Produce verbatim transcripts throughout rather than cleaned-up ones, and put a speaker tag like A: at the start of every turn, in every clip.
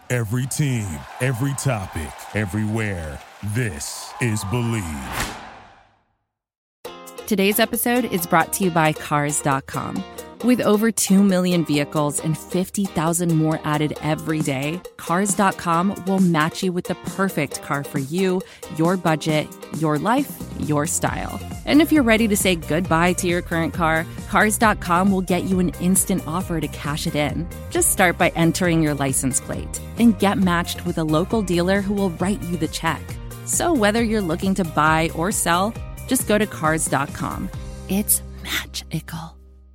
A: Every team, every topic, everywhere. This is Believe.
B: Today's episode is brought to you by Cars dot com. With over two million vehicles and fifty thousand more added every day, Cars dot com will match you with the perfect car for you, your budget, your life, your style. And if you're ready to say goodbye to your current car, Cars dot com will get you an instant offer to cash it in. Just start by entering your license plate and get matched with a local dealer who will write you the check. So whether you're looking to buy or sell, just go to Cars dot com. It's magical.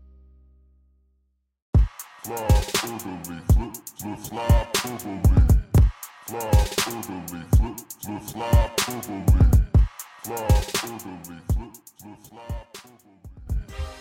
C: Fly orderly, flip, flip, fly orderly. Fly orderly, flip, flip, fly orderly. Fly orderly, flip, flip, fly orderly.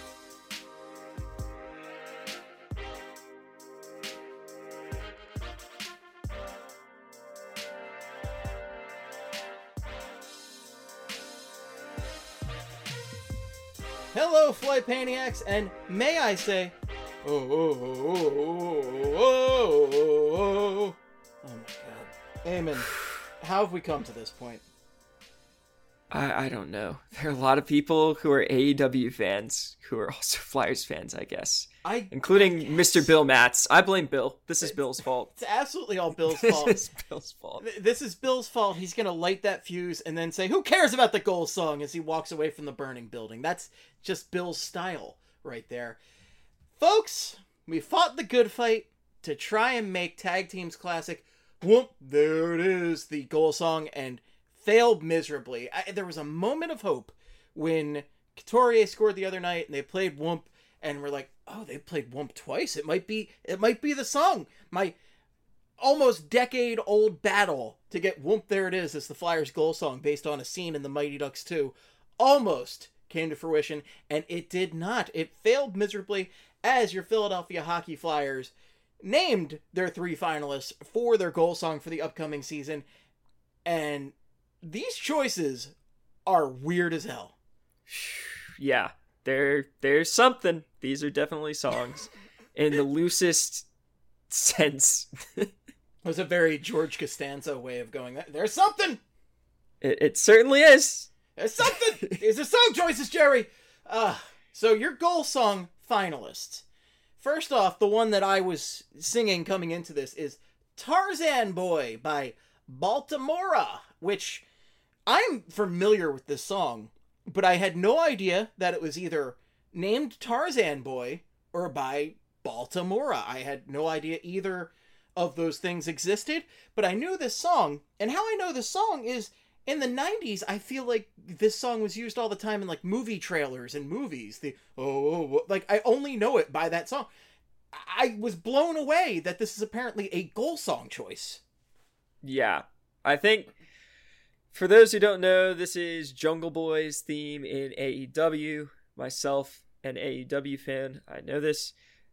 D: Hello, Flight Paniacs, and may I say, oh, oh, oh, oh, oh, oh, oh, oh my god. Eamon, how have we come to this point?
E: I, I don't know. There are a lot of people who are A E W fans who are also Flyers fans, I guess.
D: I,
E: Including
D: I
E: Mister Bill Matz. I blame Bill. This is Bill's fault.
D: It's absolutely all Bill's fault.
E: This is Bill's fault.
D: This is Bill's fault. He's going to light that fuse and then say, who cares about the goal song, as he walks away from the burning building. That's just Bill's style right there. Folks, we fought the good fight to try and make Tag Team's classic, whoop, there it is, the goal song, and failed miserably. I, there was a moment of hope when Couturier scored the other night and they played Whoomp, and we're like, oh, they played Whoomp twice. It might be, it might be the song. My almost decade-old battle to get Whoomp, there it is, as the Flyers goal song based on a scene in the Mighty Ducks two almost came to fruition, and it did not. It failed miserably, as your Philadelphia Hockey Flyers named their three finalists for their goal song for the upcoming season. And these choices are weird as hell.
E: Yeah, there, there's something. These are definitely songs in the loosest sense.
D: It was a very George Costanza way of going, there's something!
E: It, it certainly is.
D: There's something! These are song choices, Jerry! Uh, so your goal song finalists. First off, the one that I was singing coming into this is Tarzan Boy by Baltimora, which I'm familiar with this song, but I had no idea that it was either named Tarzan Boy or by Baltimora. I had no idea either of those things existed, but I knew this song, and how I know this song is in the nineties, I feel like this song was used all the time in like movie trailers and movies. The oh, oh, oh, like I only know it by that song. I was blown away that this is apparently a goal song choice.
E: Yeah, I think for those who don't know, this is Jungle Boy's theme in A E W. Myself, an A E W fan, I know this.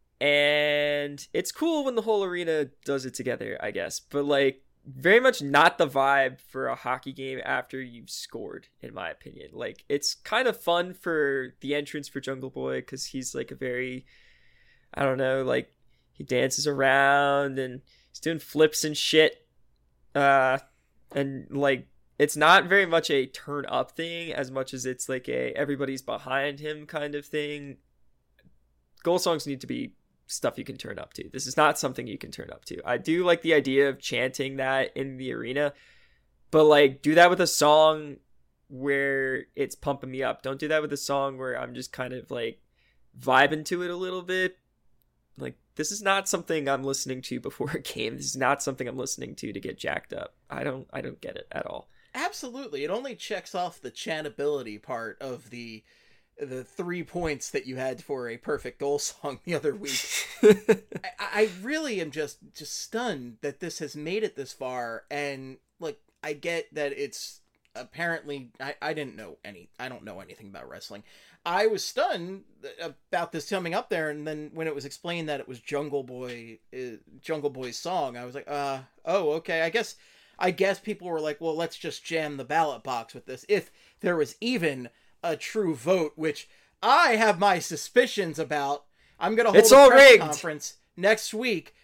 E: And it's cool when the whole arena does it together, I guess. But, like, very much not the vibe for a hockey game after you've scored, in my opinion. Like, it's kind of fun for the entrance for Jungle Boy because he's, like, a very, I don't know, like, he dances around and he's doing flips and shit. Uh, and, like, it's not very much a turn up thing as much as it's like a everybody's behind him kind of thing. Goal songs need to be stuff you can turn up to. This is not something you can turn up to. I do like the idea of chanting that in the arena, but like do that with a song where it's pumping me up. Don't do that with a song where I'm just kind of like vibing to it a little bit. Like, this is not something I'm listening to before a game. This is not something I'm listening to to get jacked up. I don't I don't get it at all.
D: Absolutely. It only checks off the chantability part of the the three points that you had for a perfect goal song the other week. I, I really am just just stunned that this has made it this far. And like, I get that it's apparently I, I didn't know any I don't know anything about wrestling. I was stunned about this coming up there, and then when it was explained that it was Jungle Boy uh, Jungle Boy's song, I was like, uh oh, okay. I guess I guess people were like, well, let's just jam the ballot box with this. If there was even a true vote, which I have my suspicions about. I'm going to hold
E: it's
D: a
E: all
D: press
E: rigged.
D: conference next week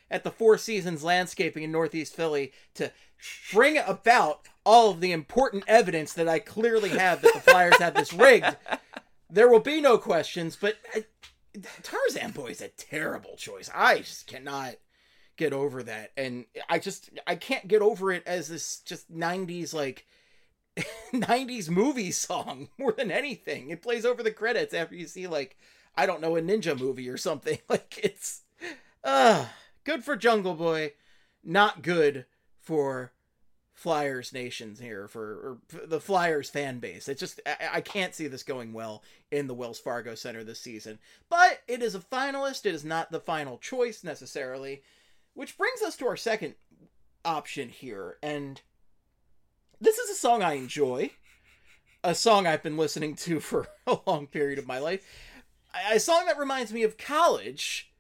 D: at the Four Seasons Landscaping in Northeast Philly to bring about all of the important evidence that I clearly have that the Flyers have this rigged, there will be no questions. But I, Tarzan Boy is a terrible choice. I just cannot get over that. And I just, I can't get over it as this just nineties, like, nineties movie song more than anything. It plays over the credits after you see, like, I don't know, a ninja movie or something. Like, it's uh good for Jungle Boy, not good for Flyers Nations here, for, or for the Flyers fan base. It just, I, I can't see this going well in the Wells Fargo Center this season. But it is a finalist. It is not the final choice necessarily, which brings us to our second option here. And this is a song I enjoy, a song I've been listening to for a long period of my life. A song that reminds me of college,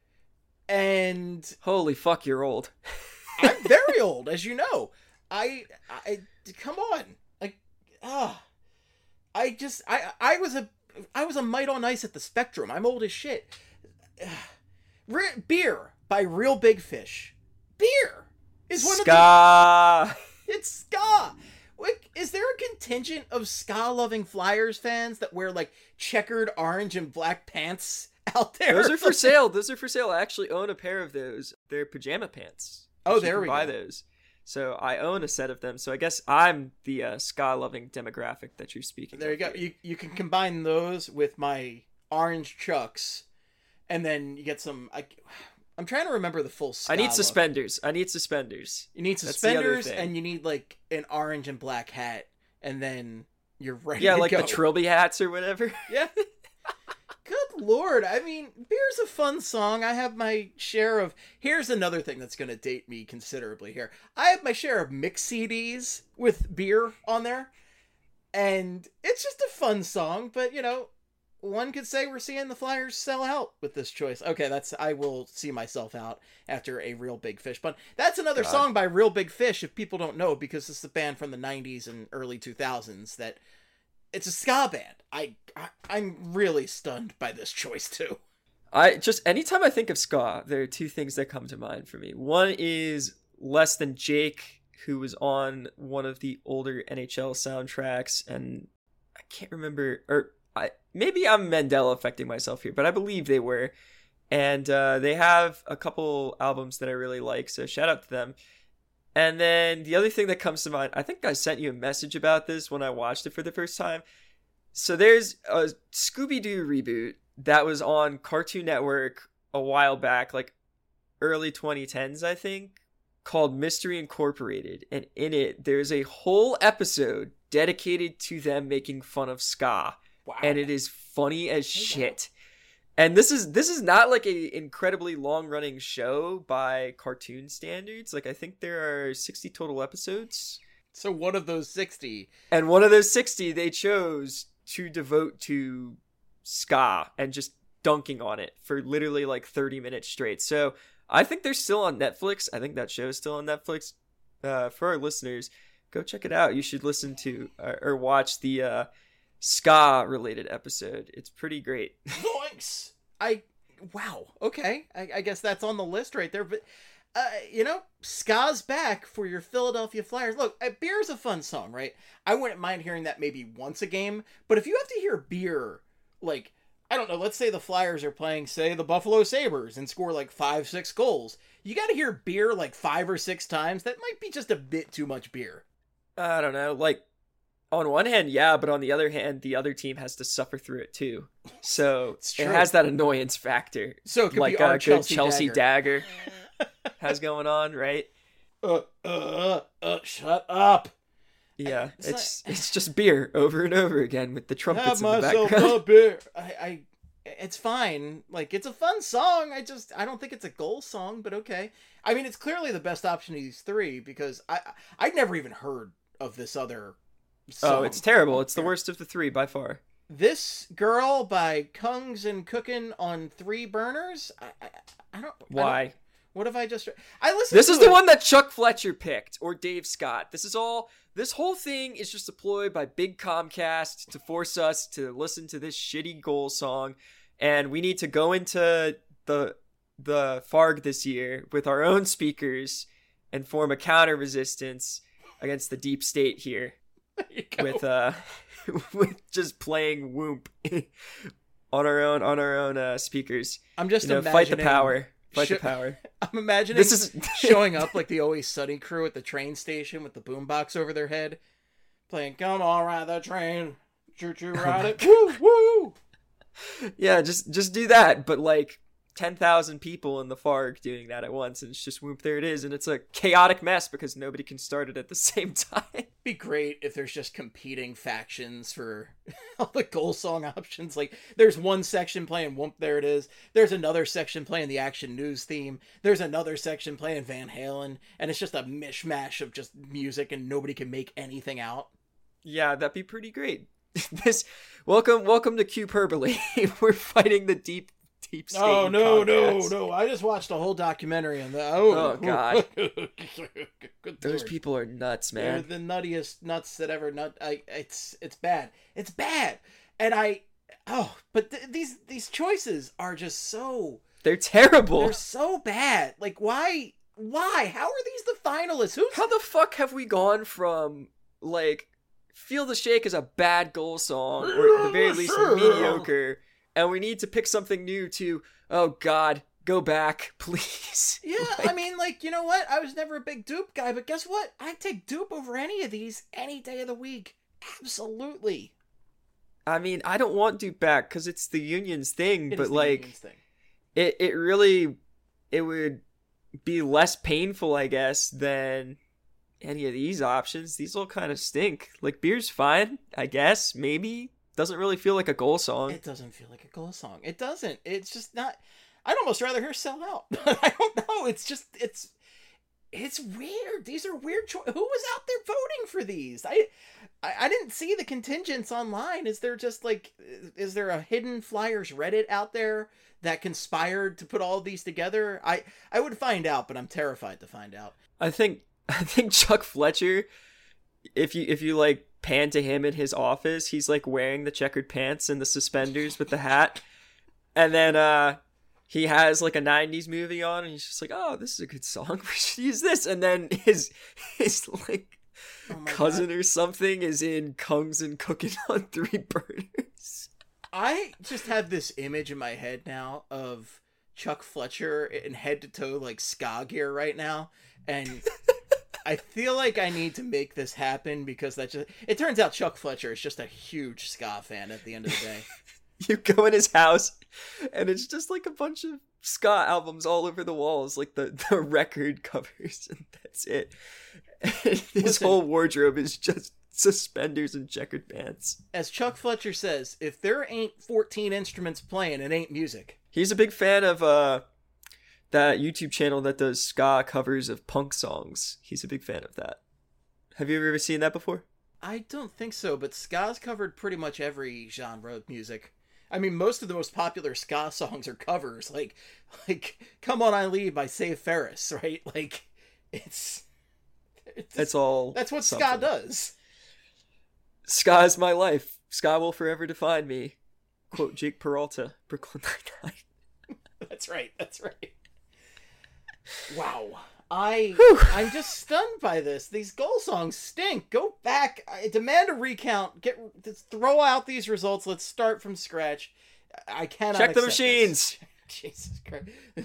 D: and
E: holy fuck, you're old.
D: I'm very old, as you know. I, I, come on, like, ah, I just, I, I was a, I was a mite on ice at the Spectrum. I'm old as shit. Re- Beer by Real Big Fish. Beer is one
E: ska.
D: of the. It's ska. Like, is there a contingent of ska-loving Flyers fans that wear, like, checkered orange and black pants out there?
E: Those are for sale. Those are for sale. I actually own a pair of those. They're pajama pants.
D: Oh, there we
E: buy
D: go.
E: those. So I own a set of them. So I guess I'm the uh, ska-loving demographic that you're speaking
D: There you
E: of
D: go.
E: here.
D: You you can combine those with my orange Chucks, and then you get some... I, I'm trying to remember the full ska
E: I need
D: look.
E: suspenders. I need suspenders.
D: You need
E: That's the other
D: suspenders,
E: thing.
D: and you need, like, an orange and black hat, and then you're ready
E: Yeah,
D: to
E: like
D: go.
E: the Trilby hats or whatever.
D: Yeah. Good lord. I mean, Beer's a fun song. I have my share of... Here's another thing that's going to date me considerably here. I have my share of mix C Ds with Beer on there. And it's just a fun song, but, you know, one could say we're seeing the Flyers sell out with this choice. Okay, that's... I will see myself out after a Real Big Fish pun. That's another
E: God.
D: song by Real Big Fish, if people don't know, because it's a band from the nineties and early two thousands that... It's a ska band. I, I I'm really stunned by this choice too.
E: I just anytime I think of ska, there are two things that come to mind for me. One is Less Than Jake, who was on one of the older N H L soundtracks, and I can't remember, or I maybe I'm Mandela affecting myself here, but I believe they were. And uh, they have a couple albums that I really like, so shout out to them. And then the other thing that comes to mind, I think I sent you a message about this when I watched it for the first time. So there's a Scooby-Doo reboot that was on Cartoon Network a while back, like early twenty tens, I think, called Mystery Incorporated. And in it, there's a whole episode dedicated to them making fun of ska.
D: Wow.
E: And it is funny as shit. And this is this is not like a incredibly long-running show by cartoon standards. Like, I think there are sixty total episodes.
D: So one of those sixty.
E: And one of those sixty they chose to devote to ska and just dunking on it for literally like thirty minutes straight. So I think they're still on Netflix. I think that show is still on Netflix. Uh, for our listeners, go check it out. You should listen to uh, or watch the uh, ska related episode. It's pretty great.
D: Thanks. I wow. Okay, I, I guess that's on the list right there. But uh, you know, ska's back for your Philadelphia Flyers. Look, uh, Beer's a fun song, right? I wouldn't mind hearing that maybe once a game. But if you have to hear Beer, like, I don't know, let's say the Flyers are playing, say, the Buffalo Sabres and score like five, six goals. You got to hear Beer like five or six times. That might be just a bit too much Beer.
E: I don't know. Like, on one hand, yeah, but on the other hand, the other team has to suffer through it too. So
D: It's
E: it
D: true.
E: has that annoyance factor.
D: So it could
E: like
D: be our
E: a good
D: Chelsea,
E: Chelsea
D: dagger.
E: dagger, has going on, right?
D: Uh, uh, uh, shut up.
E: Yeah,
D: It's
E: it's
D: like-
E: it's just Beer over and over again with the trumpets
D: Have
E: in the
D: myself
E: background.
D: a beer. I, I, it's fine. Like, it's a fun song. I just, I don't think it's a goal song, but okay. I mean, it's clearly the best option of these three because I, I'd never even heard of this other song.
E: Oh, it's terrible. It's the worst of the three by far.
D: This Girl by Kungs and Cookin' on Three Burners. I, I, I don't. I
E: Why?
D: don't- what have I just? I listened.
E: This
D: to
E: is the
D: it.
E: one that Chuck Fletcher picked, or Dave Scott. This is all. This whole thing is just a ploy by Big Comcast to force us to listen to this shitty goal song, and we need to go into the the Farg this year with our own speakers and form a counter resistance against the deep state here with uh with just playing Whoomp on our own on our own uh, speakers.
D: I'm just
E: you know,
D: imagining
E: fight the power. Fight
D: sh-
E: the power.
D: I'm imagining
E: This is
D: showing up like the Always Sunny crew at the train station with the boombox over their head, playing "Come on, ride the train, choo choo ride it, woo woo."
E: Yeah, just just do that, but like ten thousand people in the Farg doing that at once, and it's just Whoop, there it is, and it's a chaotic mess because nobody can start it at the same time.
D: It'd be great if there's just competing factions for all the goal song options. Like, there's one section playing Whoop, there it is. There's another section playing the Action News theme. There's another section playing Van Halen, and it's just a mishmash of just music, and nobody can make anything out.
E: Yeah, that'd be pretty great. This welcome welcome to Cuperberly. We're fighting the deep deep state.
D: Oh no
E: podcast.
D: no no! I just watched a whole documentary on that. Oh,
E: Oh, God.
D: Good
E: Those
D: Lord.
E: people are nuts,
D: They're
E: man.
D: the nuttiest nuts that ever nut. I it's it's bad. It's bad. And I oh, but th- these these choices are just so
E: They're terrible.
D: they're so bad. Like, why why? How are these the finalists? Who's
E: How the fuck have we gone from like Feel the Shake is a bad goal song, or at the very least mediocre, and we need to pick something new to, oh God, go back, please.
D: Yeah,
E: Like,
D: I mean, like, you know what? I was never a big Dupe guy, but guess what? I'd take Dupe over any of these any day of the week. Absolutely.
E: I mean, I don't want Duke back because it's the union's thing,
D: It
E: but
D: is the
E: like,
D: Unions thing.
E: it it really, it would be less painful, I guess, than any of these options. These all kind of stink. Like, Beer's fine, I guess, maybe. Doesn't really feel like a goal song.
D: It doesn't feel like a goal song. It doesn't. It's just not. I'd almost rather hear Sell Out. I don't know. It's just, it's, it's weird. These are weird choices. Who was out there voting for these? I, I, I didn't see the contingents online. Is there just like, is there a hidden Flyers Reddit out there that conspired to put all of these together? I, I would find out, but I'm terrified to find out.
E: I think I think Chuck Fletcher, if you if you like pan to him in his office, he's like wearing the checkered pants and the suspenders with the hat, and then uh he has like a nineties movie on, and he's just like, oh, this is a good song, we should use this. And then his his like
D: Oh my
E: cousin
D: God.
E: or something is in Kungs and Cooking on Three Burners.
D: I just have this image in my head now of Chuck Fletcher in head to toe like ska gear right now, and I feel like I need to make this happen because that just it turns out Chuck Fletcher is just a huge ska fan at the end of the day.
E: You go in his house, and it's just like a bunch of ska albums all over the walls, like the, the record covers, and that's it. His
D: Listen.
E: whole wardrobe is just suspenders and checkered pants.
D: As Chuck Fletcher says, if there ain't fourteen instruments playing, it ain't music.
E: He's a big fan of uh that YouTube channel that does ska covers of punk songs. He's a big fan of that. Have you ever seen that before?
D: I don't think so, but ska's covered pretty much every genre of music. I mean, most of the most popular ska songs are covers, like, like "Come On, I Leave" by Save Ferris, right? Like, it's, it's
E: That's all.
D: that's what
E: something.
D: ska does.
E: Ska is my life. Ska will forever define me. Quote Jake Peralta, Brooklyn Nine-Nine.
D: That's right. That's right. Wow. I I'm just stunned by this. These goal songs stink. Go back. I demand a recount. Get just throw out these results. Let's start from scratch. I cannot
E: Check the
D: accept this.
E: machines.
D: Jesus Christ.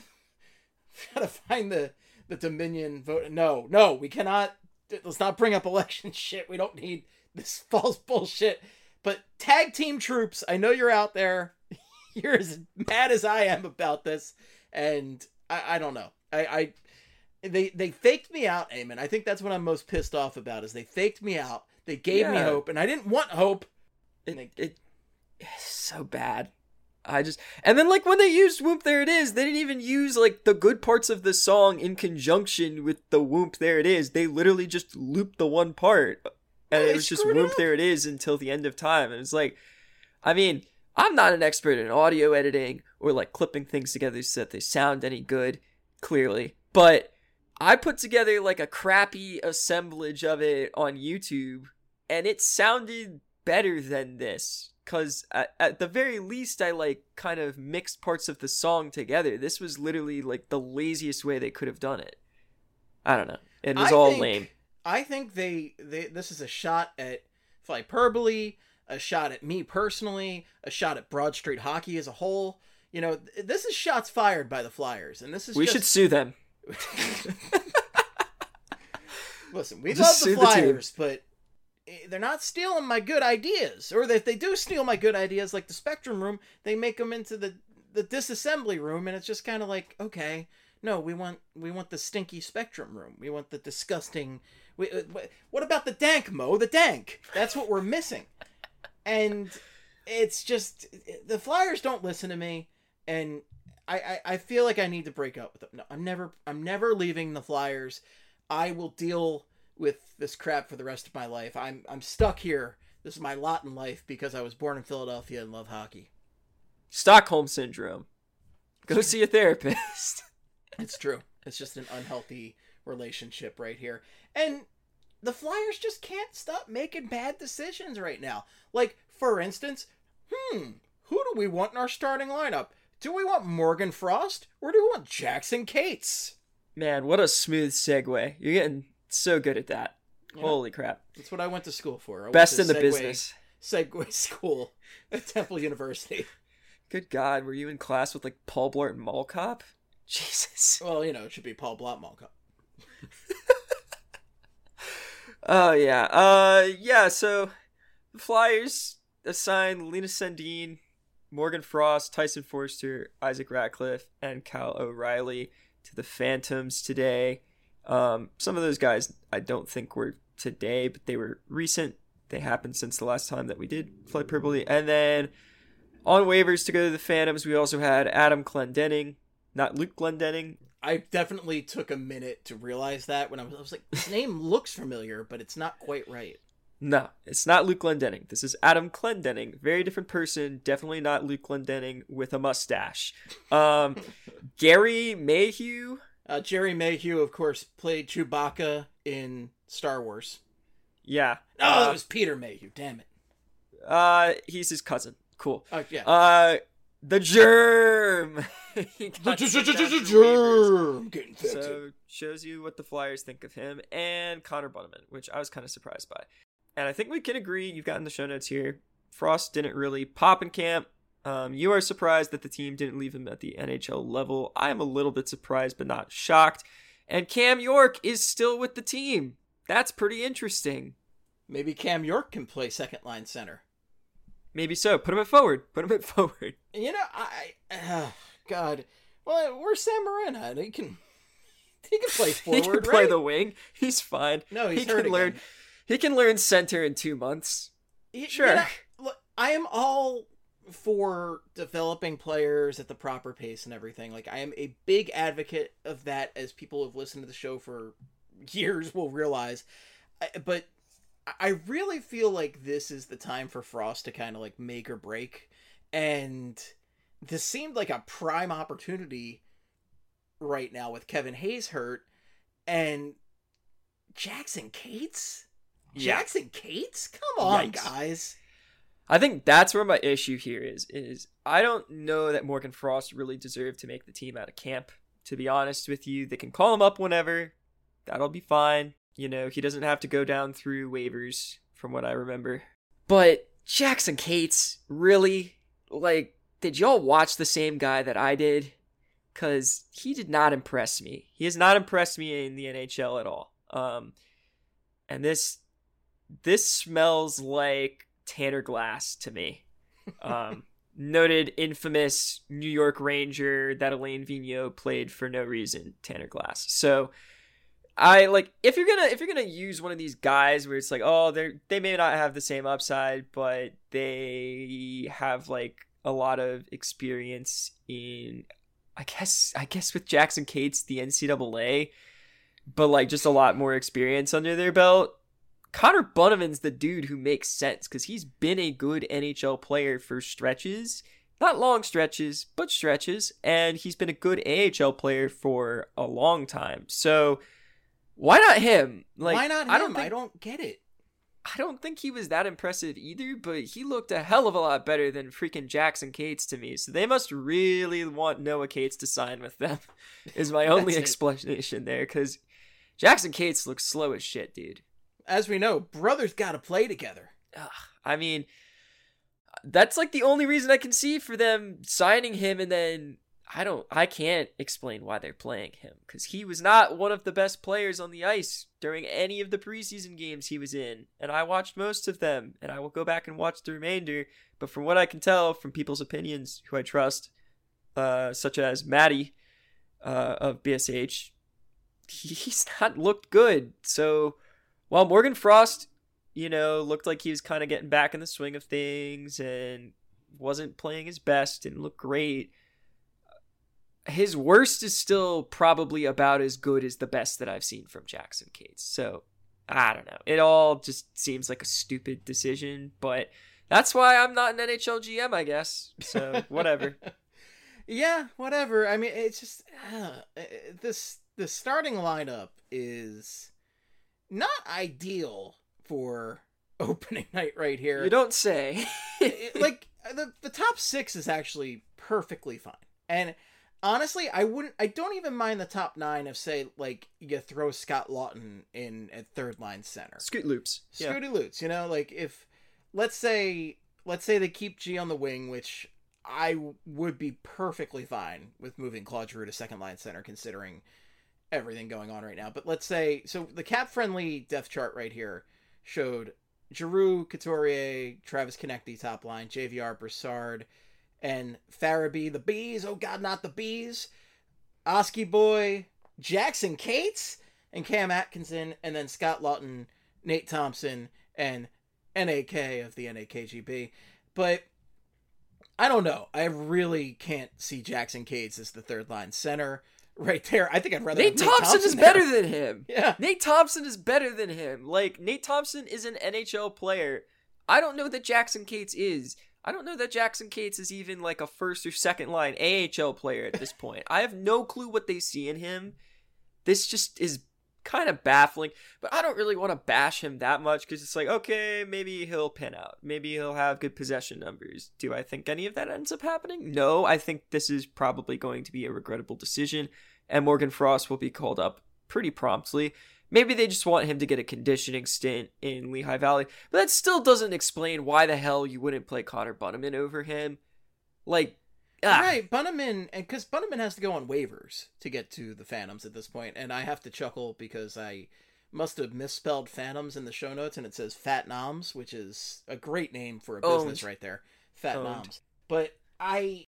D: Gotta find the the Dominion vote. No, no, we cannot. Let's not bring up election shit. We don't need this false bullshit. But tag team troops, I know you're out there. You're as mad as I am about this, and I, I don't know. I, I they they faked me out, Eamon. I think that's what I'm most pissed off about. Is they faked me out. They gave me
E: Yeah.
D: hope, and I didn't want hope.
E: It, it it's so bad. I just and then like when they used Whoop There It Is, they didn't even use like the good parts of the song in conjunction with the Whoop There It Is. They literally just looped the one part, and
D: Yeah,
E: it
D: they
E: was just
D: screwed
E: Whoop
D: up.
E: There It Is until the end of time. And it's like, I mean, I'm not an expert in audio editing or like clipping things together so that they sound any good, clearly, but I put together like a crappy assemblage of it on YouTube, and it sounded better than this. because at, at the very least I like kind of mixed parts of the song together. This was literally like the laziest way they could have done it. I don't know. It was
D: I
E: all
D: think,
E: lame.
D: I think they, they this is a shot at Flyperbole, a shot at me personally, a shot at Broad Street Hockey as a whole. You know, th- this is shots fired by the Flyers, and this is
E: We
D: just...
E: should sue them.
D: Listen, we
E: Just
D: love the
E: sue the team.
D: Flyers, but they're not stealing my good ideas. Or if they do steal my good ideas, like the Spectrum Room, they make them into the, the disassembly room, and it's just kind of like, okay, no, we want we want the stinky Spectrum Room. We want the disgusting... We, uh, what about the dank, Mo? The dank. That's what we're missing. And it's just... The Flyers don't listen to me, and I, I, I feel like I need to break up with them. No, I'm never I'm never leaving the Flyers. I will deal with this crap for the rest of my life. I'm I'm stuck here. This is my lot in life because I was born in Philadelphia and love hockey.
E: Stockholm Syndrome. Go see a therapist.
D: It's true. It's just an unhealthy relationship right here. And the Flyers just can't stop making bad decisions right now. Like, for instance, hmm, who do we want in our starting lineup? Do we want Morgan Frost or do we want Jackson Cates?
E: Man, what a smooth segue. You're getting so good at that.
D: Yeah.
E: Holy crap.
D: That's what I went to school for. I went
E: Best
D: to
E: in the
D: Segway-
E: business.
D: Segway school at Temple University.
E: Good God, were you in class with like Paul Blart and Mall Cop? Jesus.
D: Well, you know, it should be Paul Blart Mall Cop.
E: Oh, yeah. Uh, yeah, so the Flyers assigned Lena Sandin, Morgan Frost, Tyson Forster, Isaac Ratcliffe, and Cal O'Reilly to the Phantoms today. Um, some of those guys I don't think were today, but they were recent. They happened since the last time that we did Flyperbole. And then on waivers to go to the Phantoms, we also had Adam Clendenning, not Luke Glendenning.
D: I definitely took a minute to realize that when I was, I was like, his name looks familiar, but it's not quite right.
E: No, it's not Luke Glendenning. This is Adam Clendenning. Very different person. Definitely not Luke Glendenning with a mustache. Um, Gary Mayhew.
D: Uh, Jerry Mayhew, of course, played Chewbacca in Star Wars.
E: Yeah.
D: Oh,
E: uh,
D: it was Peter Mayhew. Damn it.
E: Uh, he's his cousin. Cool.
D: Oh, yeah.
E: Uh, the Germ. He got sent down to waivers.
D: Getting infected.
E: So shows you what the Flyers think of him and Connor Bunneman, which I was kind of surprised by. And I think we can agree, you've gotten the show notes here, Frost didn't really pop in camp. Um, you are surprised that the team didn't leave him at the N H L level. I'm a little bit surprised, but not shocked. And Cam York is still with the team. That's pretty interesting.
D: Maybe Cam York can play second line center.
E: Maybe so. Put him at forward. Put him at forward.
D: You know, I... Uh, God. Well, where's Sam Morena? He can... He can play forward,
E: he can play
D: right?
E: the wing. He's fine.
D: No, he's
E: he
D: hurt
E: can learn.
D: again.
E: He can learn center in two months.
D: Y-
E: Sure.
D: you know, look, I am all for developing players at the proper pace and everything. Like, I am a big advocate of that, as people who have listened to the show for years will realize. I, but I really feel like this is the time for Frost to kind of like make or break. And this seemed like a prime opportunity right now with Kevin Hayes hurt and Jackson Cates.
E: Yeah.
D: Jackson Cates? Come on,
E: Yikes.
D: guys.
E: I think that's where my issue here is, is I don't know that Morgan Frost really deserved to make the team out of camp, to be honest with you. They can call him up whenever. That'll be fine. You know, he doesn't have to go down through waivers, from what I remember. But Jackson Cates, really? Like, did y'all watch the same guy that I did? Because he did not impress me. He has not impressed me in the N H L at all. Um, and this, this smells like Tanner Glass to me. Um, noted infamous New York Ranger that Alain Vigneault played for no reason, Tanner Glass. So I like, if you're gonna if you're gonna use one of these guys where it's like, oh, they they may not have the same upside, but they have like a lot of experience in, I guess I guess with Jackson Cates, the N C double A, but like just a lot more experience under their belt. Connor Bunneman's the dude who makes sense because he's been a good N H L player for stretches. Not long stretches, but stretches. And he's been a good A H L player for a long time. So why not him? Like,
D: Why not him?
E: I
D: I
E: don't,
D: don't,
E: think,
D: I don't get it.
E: I don't think he was that impressive either, but he looked a hell of a lot better than freaking Jackson Cates to me. So they must really want Noah Cates to sign with them, is my only explanation there, because Jackson Cates looks slow as shit, dude.
D: As we know, brothers gotta play together.
E: Ugh, I mean, that's like the only reason I can see for them signing him, and then I don't, I can't explain why they're playing him, because he was not one of the best players on the ice during any of the preseason games he was in, and I watched most of them, and I will go back and watch the remainder, but from what I can tell from people's opinions who I trust, uh, such as Maddie uh, of B S H, he, he's not looked good. So while Morgan Frost, you know, looked like he was kind of getting back in the swing of things and wasn't playing his best, didn't look great, his worst is still probably about as good as the best that I've seen from Jackson Cates. So, I don't know. It all just seems like a stupid decision, but that's why I'm not an N H L G M, I guess. So, whatever.
D: Yeah, whatever. I mean, it's just uh, this the starting lineup is not ideal for opening night right here.
E: You don't say.
D: It- like the the top six is actually perfectly fine, and honestly, I wouldn't. I don't even mind the top nine if, say, like you throw Scott Lawton in at third line center.
E: Scoot loops. Yeah.
D: Scooty Loots, you know, like if let's say let's say they keep G on the wing, which I would be perfectly fine with moving Claude Giroux to second line center, considering everything going on right now. But let's say so the cap friendly depth chart right here showed Giroux, Couturier, Travis Konecny top line, J V R, Brassard, and Farabee, the Bees, oh god, not the Bees, Oski Boy, Jackson Cates, and Cam Atkinson, and then Scott Lawton, Nate Thompson, and N A K of the N A K G B. But I don't know. I really can't see Jackson Cates as the third line center right there. I think I'd rather
E: Nate
D: have
E: Thompson,
D: Nate Thompson
E: is
D: there.
E: better than him.
D: Yeah.
E: Nate Thompson is better than him. Like, Nate Thompson is an N H L player. I don't know that Jackson Cates is. I don't know that Jackson Cates is even like a first or second line A H L player at this point. I have no clue what they see in him. This just is kind of baffling, but I don't really want to bash him that much because it's like, okay, maybe he'll pin out. Maybe he'll have good possession numbers. Do I think any of that ends up happening? No, I think this is probably going to be a regrettable decision, and Morgan Frost will be called up pretty promptly. Maybe they just want him to get a conditioning stint in Lehigh Valley, but that still doesn't explain why the hell you wouldn't play Connor Bunnaman over him. Like, ah.
D: Right, Bunnaman, and because Bunnaman has to go on waivers to get to the Phantoms at this point, and I have to chuckle because I must have misspelled Phantoms in the show notes, and it says Fat Noms, which is a great name for a business
E: Owned.
D: right there. Fat
E: Owned.
D: Noms. But I,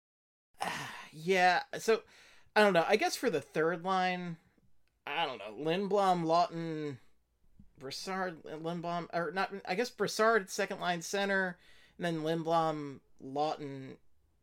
D: yeah, so, I don't know, I guess for the third line, I don't know, Lindblom, Lawton, Brassard, Lindblom, or not, I guess Brassard, second line center, and then Lindblom, Lawton,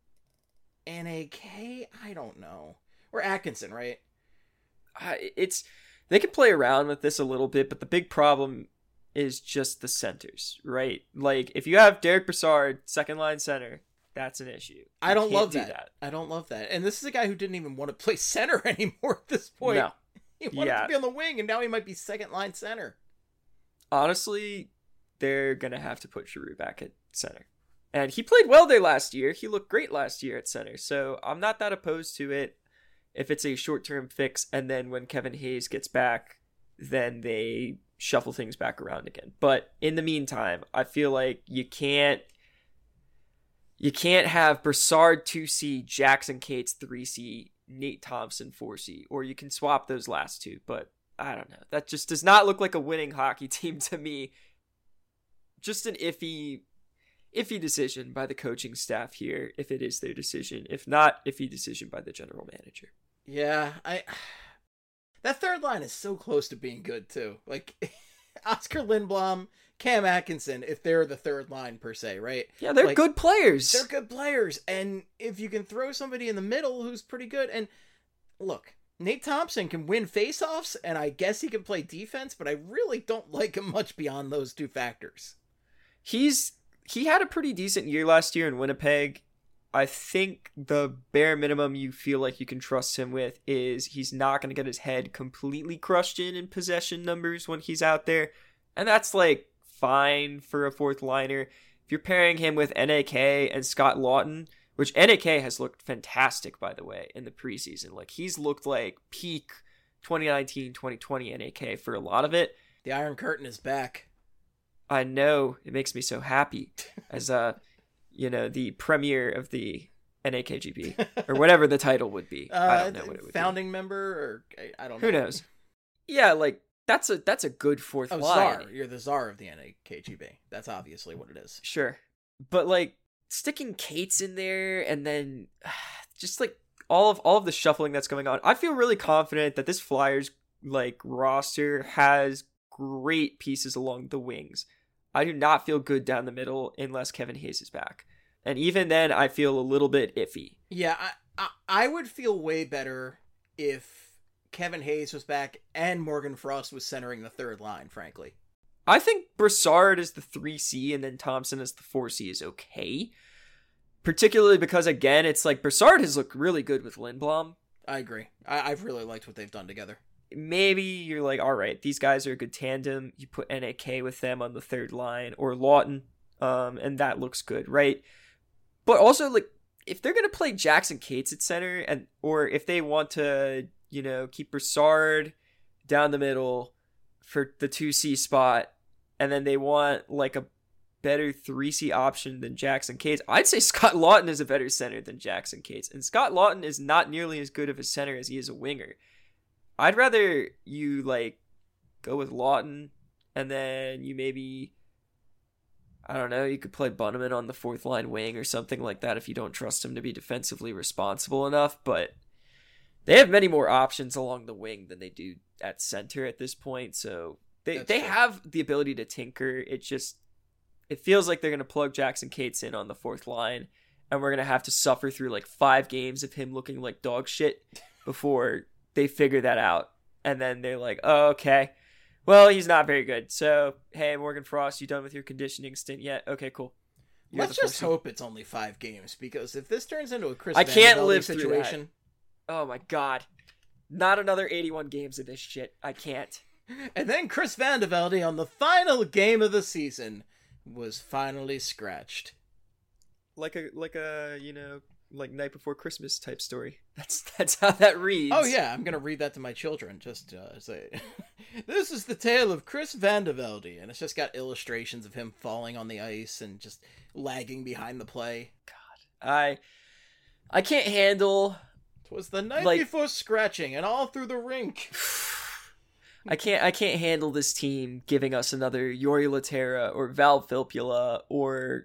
D: N A K? I don't know. Or Atkinson, right?
E: I- it's they can play around with this a little bit, but the big problem is just the centers, right? Like, if you have Derek Brassard, second line center, that's an issue.
D: I
E: You
D: don't
E: can't
D: love
E: do
D: that. I don't love that. And this is a guy who didn't even want to play center anymore at this point.
E: No.
D: He wanted
E: Yeah.
D: to be on the wing, and now he might be second line center.
E: Honestly, they're going to have to put Giroux back at center. And he played well there last year. He looked great last year at center. So I'm not that opposed to it if it's a short-term fix. And then when Kevin Hayes gets back, then they shuffle things back around again. But in the meantime, I feel like you can't you can't have Brassard two C, Jackson Cates three C, Nate Thompson four C, or you can swap those last two. But I don't know. That just does not look like a winning hockey team to me. Just an iffy iffy decision by the coaching staff here, if it is their decision. If not, iffy decision by the general manager.
D: Yeah, I... That third line is so close to being good, too. Like, Oscar Lindblom, Cam Atkinson, if they're the third line, per se, right?
E: Yeah, they're
D: Like,
E: good players.
D: They're good players, and if you can throw somebody in the middle who's pretty good, and look, Nate Thompson can win faceoffs, and I guess he can play defense, but I really don't like him much beyond those two factors.
E: He's he had a pretty decent year last year in Winnipeg. I think the bare minimum you feel like you can trust him with is he's not going to get his head completely crushed in in possession numbers when he's out there. And that's like fine for a fourth liner. If you're pairing him with N A K and Scott Lawton, which N A K has looked fantastic, by the way, in the preseason. Like, he's looked like peak twenty nineteen, twenty twenty N A K for a lot of it.
D: The Iron Curtain is back.
E: I know. It makes me so happy as, uh, you know, the premier of the N A K G P, or whatever the title would be.
D: Uh,
E: I don't know what it would
D: founding
E: be.
D: member, or I don't know.
E: Who knows? Yeah, like, that's a that's a good fourth
D: Oh,
E: line.
D: Czar. You're the czar of the N A K G B. That's obviously what it is.
E: Sure. But, like, sticking Cates in there and then just, like, all of all of the shuffling that's going on, I feel really confident that this Flyers, like, roster has great pieces along the wings. I do not feel good down the middle unless Kevin Hayes is back. And even then, I feel a little bit iffy.
D: Yeah, I, I, I would feel way better if Kevin Hayes was back and Morgan Frost was centering the third line, frankly.
E: I think Brassard as the three C and then Thompson as the four C is okay. Particularly because, again, it's like Brassard has looked really good with Lindblom.
D: I agree. I, I've really liked what they've done together.
E: Maybe you're like, all right, these guys are a good tandem. You put N A K with them on the third line, or Lawton, um, and that looks good, right? But also, like, if they're going to play Jackson Cates at center, and or if they want to, you know, keep Brassard down the middle for the two C spot, and then they want, like, a better three C option than Jackson Cates, I'd say Scott Lawton is a better center than Jackson Cates. And Scott Lawton is not nearly as good of a center as he is a winger. I'd rather you, like, go with Lawton, and then you maybe, I don't know, you could play Bunneman on the fourth line wing or something like that if you don't trust him to be defensively responsible enough. But they have many more options along the wing than they do at center at this point. So they, they have the ability to tinker. It just, it feels like they're going to plug Jackson Cates in on the fourth line, and we're going to have to suffer through like five games of him looking like dog shit before they figure that out. And then they're like, oh, okay, well, he's not very good. So, hey, Morgan Frost, you done with your conditioning stint yet? Okay, cool. You're
D: Let's just hope it's only five games, because if this turns into a Chris
E: I can't
D: Vanderbilt
E: live
D: situation,
E: Oh my god. Not another eighty-one games of this shit. I can't.
D: and then Chris Vandevelde on the final game of the season was finally scratched.
E: Like a like a, you know, like Night Before Christmas type story. That's that's how that reads.
D: Oh yeah, I'm gonna read that to my children. Just uh, say, this is the tale of Chris Vandevelde, and it's just got illustrations of him falling on the ice and just lagging behind the play.
E: God, I I can't handle.
D: Twas the night
E: like,
D: before scratching, and all through the rink.
E: I can't I can't handle this team giving us another Yori Laterra or Val Filppula or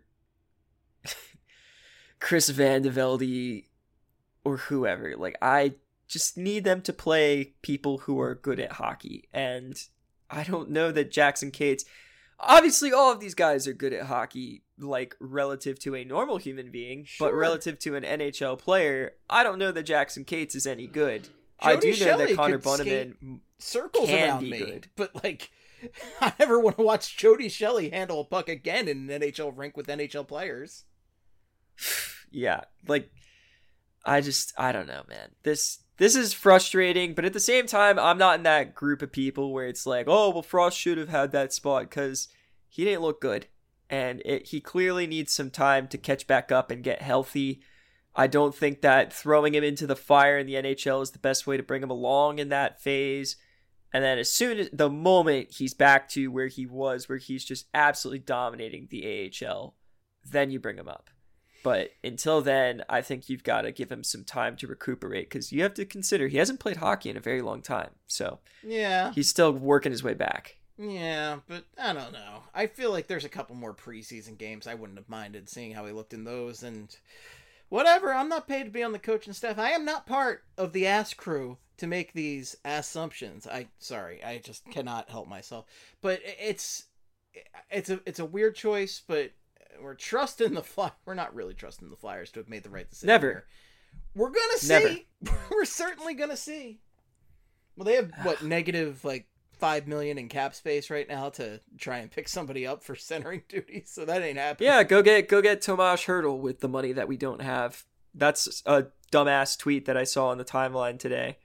E: Chris Vandevelde or whoever. Like, I just need them to play people who are good at hockey. And I don't know that Jackson Cates... Obviously, all of these guys are good at hockey, like, relative to a normal human being.
D: Sure.
E: But relative to an N H L player, I don't know that Jackson Cates is any good. I
D: Jody
E: do know
D: Shelley
E: that Connor
D: could skate
E: Bunneman
D: circles
E: can
D: around
E: be
D: me,
E: good.
D: but like, I never want to watch Jody Shelley handle a puck again in an N H L rink with N H L players.
E: Yeah, like, I just, I don't know, man. This this is frustrating, but at the same time, I'm not in that group of people where it's like, oh, well, Frost should have had that spot because he didn't look good. And it, he clearly needs some time to catch back up and get healthy. I don't think that throwing him into the fire in the N H L is the best way to bring him along in that phase. And then as soon as, the moment he's back to where he was, where he's just absolutely dominating the A H L, then you bring him up. But until then, I think you've got to give him some time to recuperate, because you have to consider he hasn't played hockey in a very long time. So
D: Yeah.
E: he's still working his way back.
D: Yeah, but I don't know. I feel like there's a couple more preseason games I wouldn't have minded seeing how he looked in those, and whatever. I'm not paid to be on the coaching staff. I am not part of the ass crew to make these assumptions. I sorry, I just cannot help myself. But it's it's a it's a weird choice, but we're trusting the fly. We're not really trusting the Flyers to have made the right decision.
E: Never.
D: Here. We're gonna see.
E: Never.
D: We're certainly gonna see. Well, they have what negative like five million in cap space right now to try and pick somebody up for centering duties, so that ain't happening.
E: Yeah, go get go get Tomas Hertl with the money that we don't have. That's a dumbass tweet that I saw on the timeline today.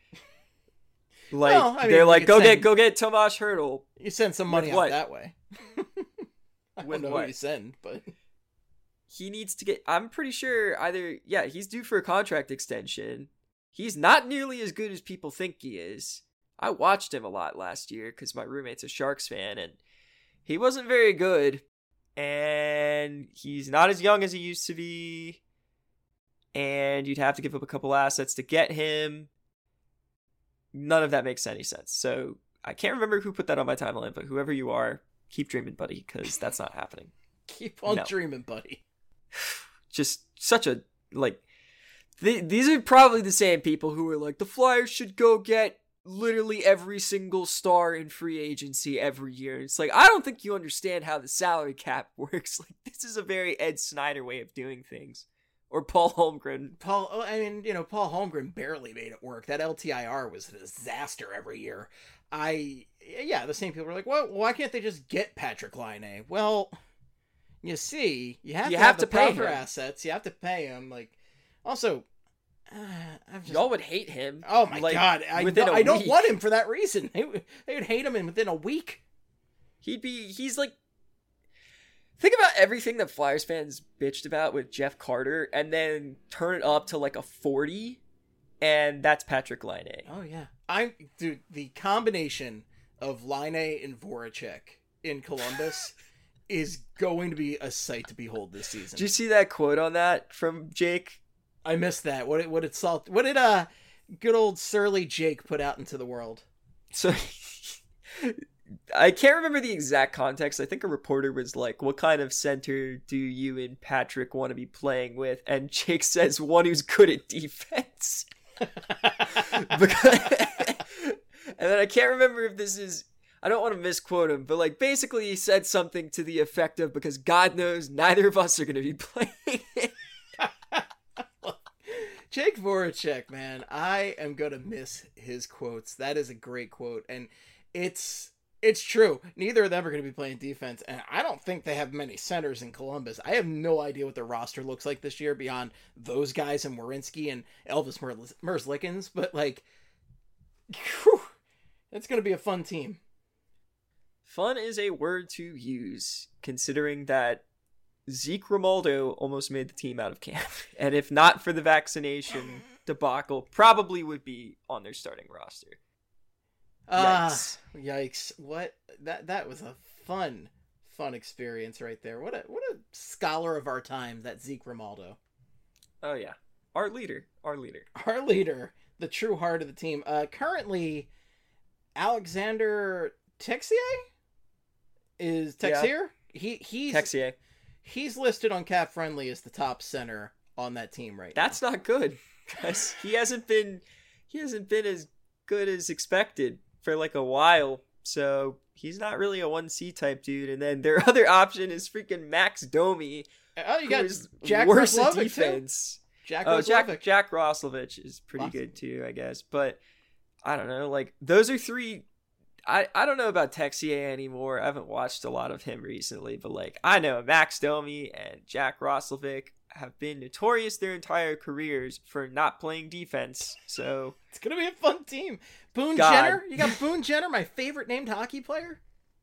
E: Like,
D: Well, I mean,
E: they're
D: you
E: like,
D: could
E: go
D: send-
E: get go get Tomas Hertl.
D: You send some money
E: With
D: out
E: what?
D: that way. I
E: When
D: don't know
E: what?
D: who you send, but
E: He needs to get, I'm pretty sure either, yeah, he's due for a contract extension. He's not nearly as good as people think he is. I watched him a lot last year because my roommate's a Sharks fan, and he wasn't very good. And he's not as young as he used to be. And you'd have to give up a couple assets to get him. None of that makes any sense. So I can't remember who put that on my timeline, but whoever you are, keep dreaming, buddy, because that's not happening.
D: keep on
E: No.
D: dreaming, buddy.
E: Just such a, like, th- these are probably the same people who are like, the Flyers should go get literally every single star in free agency every year. It's like, I don't think you understand how the salary cap works. Like, this is a very Ed Snyder way of doing things. Or Paul Holmgren.
D: Paul, oh, I mean, you know, Paul Holmgren barely made it work. That L T I R was a disaster every year. I, yeah, the same people are like, well, why can't they just get Patrick Laine? Well, you see, you have
E: You
D: to
E: have
D: have,
E: to
D: the
E: pay
D: proper
E: him.
D: assets. You have to pay him. Like, also, uh, I've just,
E: Y'all would hate him.
D: oh my
E: like,
D: god, I,
E: within
D: no,
E: a
D: I don't
E: week.
D: want him for that reason. They, would- they would hate him in within a week.
E: He'd be, he's like, think about everything that Flyers fans bitched about with Jeff Carter, and then turn it up to like a forty, and that's Patrick Laine.
D: Oh yeah, I'm dude. The combination of Laine and Voracek in Columbus is going to be a sight to behold this season.
E: Did you see that quote on that from Jake?
D: I missed that. What did what did salt? What did uh good old surly Jake put out into the world?
E: So I can't remember the exact context. I think a reporter was like, what kind of center do you and Patrick want to be playing with? And Jake says, one who's good at defense. Because, and then I can't remember if this is, I don't want to misquote him, but like basically he said something to the effect of, because God knows neither of us are going to be playing.
D: Jake Voracek, man, I am gonna miss his quotes. That is a great quote, and it's it's true. Neither of them are gonna be playing defense, and I don't think they have many centers in Columbus. I have no idea what their roster looks like this year beyond those guys and Werenski and Elvis Mer- Merzlikins, but like, whew, it's gonna be a fun team.
E: Fun is a word to use, considering that Zeke Romaldo almost made the team out of camp. And if not for the vaccination debacle, probably would be on their starting roster.
D: Ah,
E: Yikes.
D: yikes! What that that was a fun, fun experience right there. What a what a scholar of our time, that Zeke Romaldo,
E: Oh, yeah. Our leader. Our leader.
D: our leader, the true heart of the team. Uh, currently, Alexander Texier is Texier. He he's
E: Texier.
D: he's listed on Cap Friendly as the top center on that team right
E: That's not good. Because he hasn't been he hasn't been as good as expected for like a while. So he's not really a one C type dude. And then their other option is freaking Max Domi.
D: now. Oh, you got
E: who's
D: Jack
E: worse at
D: Roslovic too.
E: defense.
D: Jack
E: Oh,
D: Roslovic.
E: Jack Jack Roslovic is pretty
D: Awesome.
E: good too, I guess. But I don't know. Like those are three. I, I don't know about Texier anymore. I haven't watched a lot of him recently, but like I know Max Domi and Jack Roslovic have been notorious their entire careers for not playing defense. So
D: It's gonna be a fun team. Boone
E: God.
D: Jenner. You got Boone Jenner, my favorite named hockey player.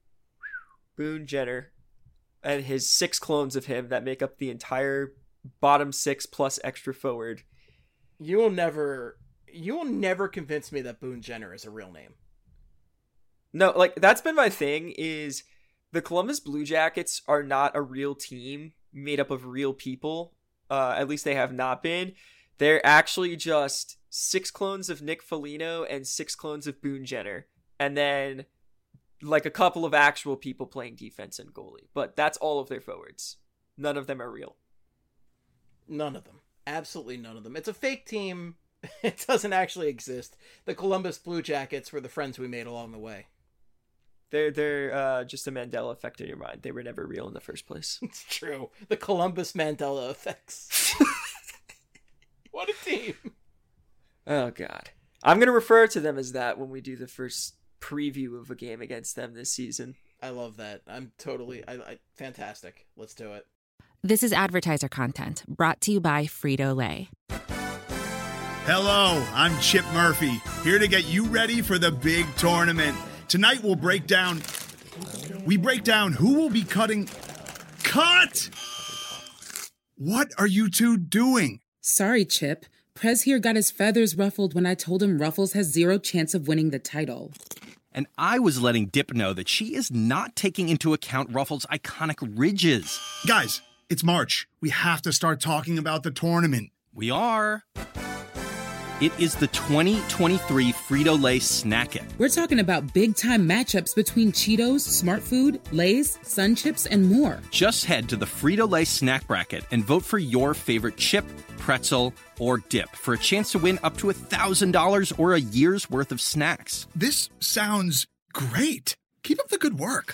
E: Boone Jenner and his six clones of him that make up the entire bottom six plus extra forward.
D: You will never, you will never convince me that Boone Jenner is a real name.
E: No, like that's been my thing is the Columbus Blue Jackets are not a real team made up of real people. Uh, at least they have not been. They're actually just six clones of Nick Foligno and six clones of Boone Jenner. And then like a couple of actual people playing defense and goalie. But that's all of their forwards. None of them are real.
D: None of them. Absolutely none of them. It's a fake team. It doesn't actually exist. The Columbus Blue Jackets were the friends we made along the way.
E: They're they're uh, just a Mandela effect in your mind. They were never real in the first place.
D: It's true. The Columbus Mandela effects. What a team.
E: Oh, God. I'm going to refer to them as that when we do the first preview of a game against them this season.
D: I love that. I'm totally, I, I fantastic. Let's do it.
B: This is advertiser content brought to you by Frito-Lay.
F: Hello, I'm Chip Murphy, here to get you ready for the big tournament. Tonight we'll break down, we break down who will be cutting, Cut! What are you two doing?
G: Sorry, Chip. Prez here got his feathers ruffled when I told him Ruffles has zero chance of winning the title.
H: And I was letting Dip know that she is not taking into account Ruffles' iconic ridges.
F: Guys, it's March. We have to start talking about the tournament.
H: We are. It is the twenty twenty-three Frito-Lay Snack-It.
G: We're talking about big-time matchups between Cheetos, Smart Food, Lay's, Sun Chips, and more.
H: Just head to the Frito-Lay Snack Bracket and vote for your favorite chip, pretzel, or dip for a chance to win up to one thousand dollars or a year's worth of snacks.
F: This sounds great. Keep up the good work.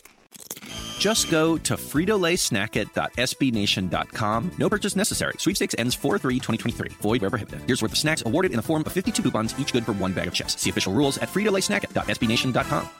H: Just go to frito lay snack it dot s b nation dot com. No purchase necessary. Sweepstakes ends four three twenty twenty-three. Void where prohibited. Here's worth of snacks awarded in the form of fifty-two coupons, each good for one bag of chips. See official rules at frito lay snack it dot s b nation dot com.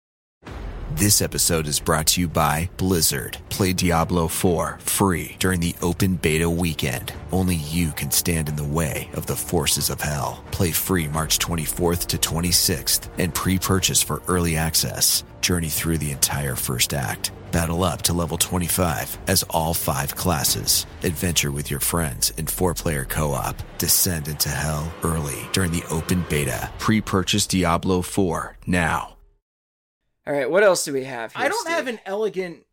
I: This episode is brought to you by Blizzard. Play Diablo four free during the open beta weekend. Only you can stand in the way of the forces of hell. Play free March twenty-fourth to twenty-sixth and pre-purchase for early access. Journey through the entire first act. Battle up to level twenty-five as all five classes. Adventure with your friends in four-player co-op. Descend into hell early during the open beta. Pre-purchase Diablo four now.
E: All right, what else do we have here,
D: I don't
E: Steve?
D: have an elegant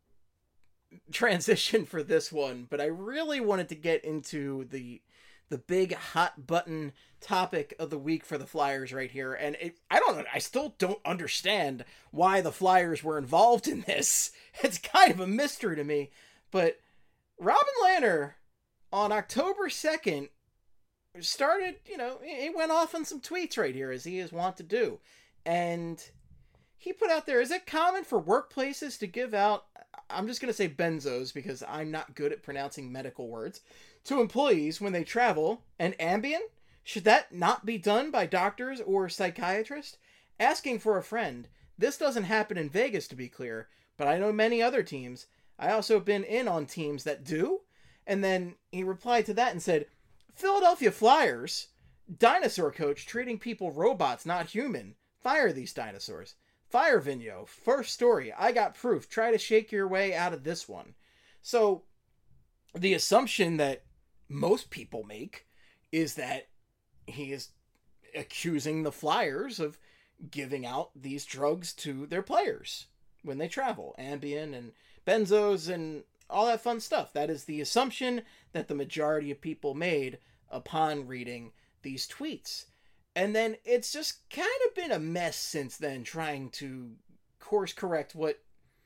D: transition for this one, but I really wanted to get into the the big hot button topic of the week for the Flyers right here. And it, I don't know, I still don't understand why the Flyers were involved in this. It's kind of a mystery to me. But Robin Lehner on October second started, you know, he went off on some tweets right here, as he is wont to do. And he put out there, is it common for workplaces to give out, I'm just going to say benzos because I'm not good at pronouncing medical words, to employees when they travel, and Ambien? Should that not be done by doctors or psychiatrists? Asking for a friend. This doesn't happen in Vegas, to be clear, but I know many other teams. I also have been in on teams that do. And then he replied to that and said, Philadelphia Flyers, dinosaur coach treating people robots, not human. Fire these dinosaurs. Fire Vigneault. First story. I got proof. Try to shake your way out of this one. So the assumption that most people make is that he is accusing the Flyers of giving out these drugs to their players when they travel. Ambien and benzos and all that fun stuff. That is the assumption that the majority of people made upon reading these tweets. And then it's just kind of been a mess since then, trying to course correct what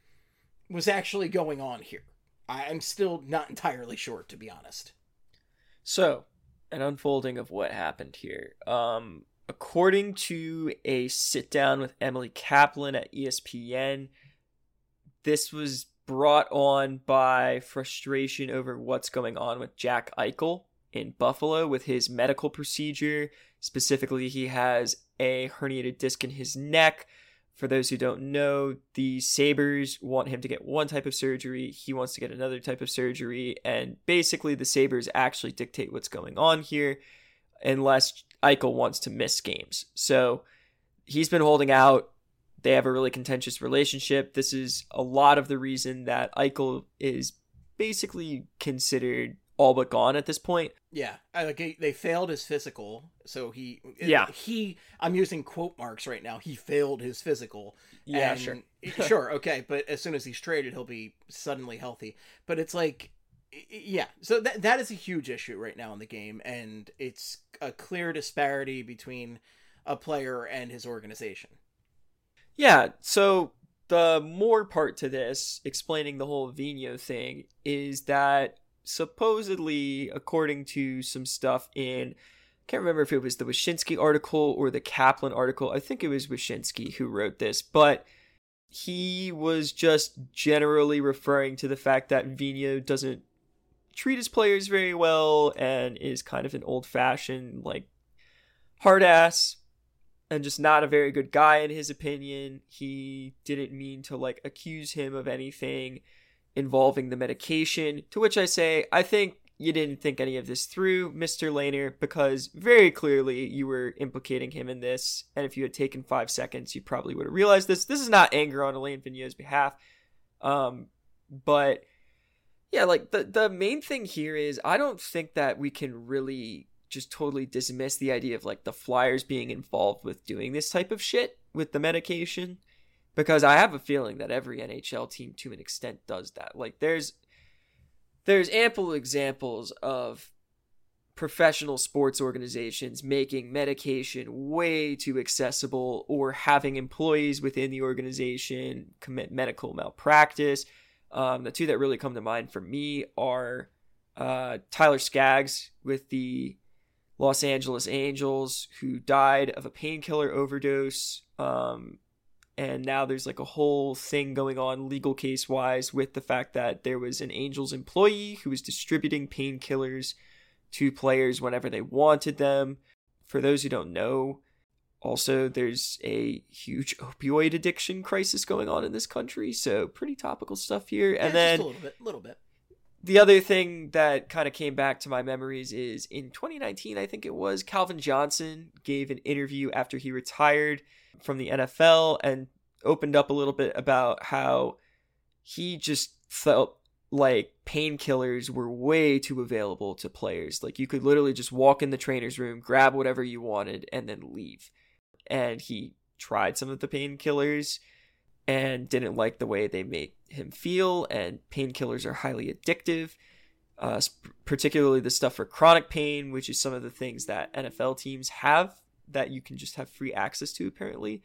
D: was actually going on here. I'm still not entirely sure, to be honest.
E: So, an unfolding of what happened here. Um, according to a sit-down with Emily Kaplan at E S P N, this was brought on by frustration over what's going on with Jack Eichel in Buffalo with his medical procedure. Specifically, he has a herniated disc in his neck. For those who don't know, the Sabres want him to get one type of surgery. He wants to get another type of surgery. And basically, the Sabres actually dictate what's going on here unless Eichel wants to miss games. So he's been holding out. They have a really contentious relationship. This is a lot of the reason that Eichel is basically considered all but gone at this point.
D: Yeah, I, like they failed his physical, so he
E: yeah
D: he I'm using quote marks right now. He failed his physical.
E: Yeah,
D: and,
E: sure,
D: sure, okay. But as soon as he's traded, he'll be suddenly healthy. But it's like, yeah. So that that is a huge issue right now in the game, and it's a clear disparity between a player and his organization.
E: Yeah. So the more part to this, explaining the whole Vigneault thing, is that supposedly, according to some stuff in, I can't remember if it was the Wyshynski article or the Kaplan article. I think it was Wyshynski who wrote this, but he was just generally referring to the fact that Vigneault doesn't treat his players very well and is kind of an old-fashioned, like, hard ass and just not a very good guy in his opinion. He didn't mean to, like, accuse him of anything involving the medication, to which I say, I think you didn't think any of this through, Mister Lehner, because very clearly you were implicating him in this, and if you had taken five seconds, you probably would have realized this. This is not anger on Alain Vigneault's behalf, um, but Yeah, like the, the main thing here is I don't think that we can really just totally dismiss the idea of like the Flyers being involved with doing this type of shit with the medication, because I have a feeling that every N H L team to an extent does that. Like there's there's ample examples of professional sports organizations making medication way too accessible, or having employees within the organization commit medical malpractice. Um, the two that really come to mind for me are uh, Tyler Skaggs with the Los Angeles Angels, who died of a painkiller overdose. Um, and now there's like a whole thing going on legal case wise with the fact that there was an Angels employee who was distributing painkillers to players whenever they wanted them. For those who don't know, also there's a huge opioid addiction crisis going on in this country, so pretty topical stuff here.
D: Yeah,
E: and then
D: just a little bit, little bit.
E: The other thing that kind of came back to my memories is in twenty nineteen, I think it was, Calvin Johnson gave an interview after he retired from the N F L and opened up a little bit about how he just felt like painkillers were way too available to players. Like you could literally just walk in the trainer's room, grab whatever you wanted, and then leave. And he tried some of the painkillers and didn't like the way they made him feel. And painkillers are highly addictive, uh, particularly the stuff for chronic pain, which is some of the things that N F L teams have that you can just have free access to, apparently.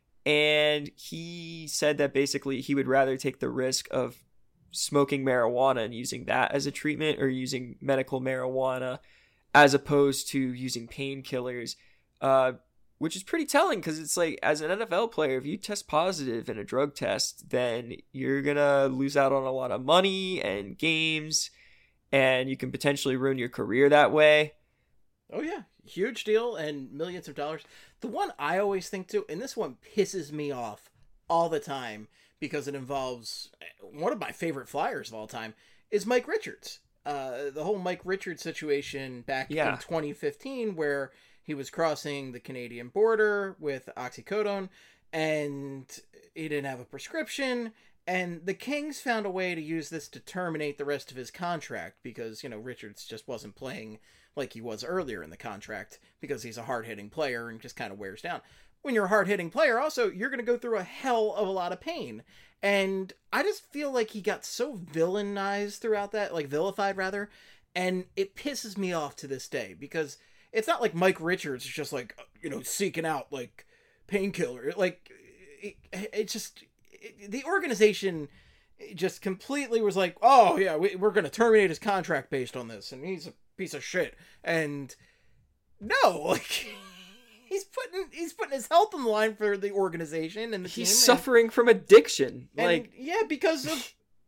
E: And he said that basically he would rather take the risk of smoking marijuana and using that as a treatment, or using medical marijuana as opposed to using painkillers, uh, which is pretty telling, because it's like, as an N F L player, if you test positive in a drug test, then you're gonna lose out on a lot of money and games, and you can potentially ruin your career that way.
D: Oh yeah, huge deal, and millions of dollars. The one I always think too, and this one pisses me off all the time, because it involves one of my favorite Flyers of all time, is Mike Richards. Uh, the whole Mike Richards situation back yeah. in twenty fifteen, where he was crossing the Canadian border with oxycodone, and he didn't have a prescription, and the Kings found a way to use this to terminate the rest of his contract, because, you know, Richards just wasn't playing like he was earlier in the contract, because he's a hard-hitting player and just kind of wears down. When you're a hard-hitting player, also, you're going to go through a hell of a lot of pain. And I just feel like he got so villainized throughout that, like vilified rather, and it pisses me off to this day, because it's not like Mike Richards is just like, you know, seeking out like painkiller. Like it, it just, it, the organization just completely was like, oh yeah, we, we're going to terminate his contract based on this, and he's a piece of shit. And no, like he's putting he's putting his health on the line for the organization and the
E: he's
D: team.
E: He's suffering and, from addiction.
D: And,
E: like
D: yeah, because of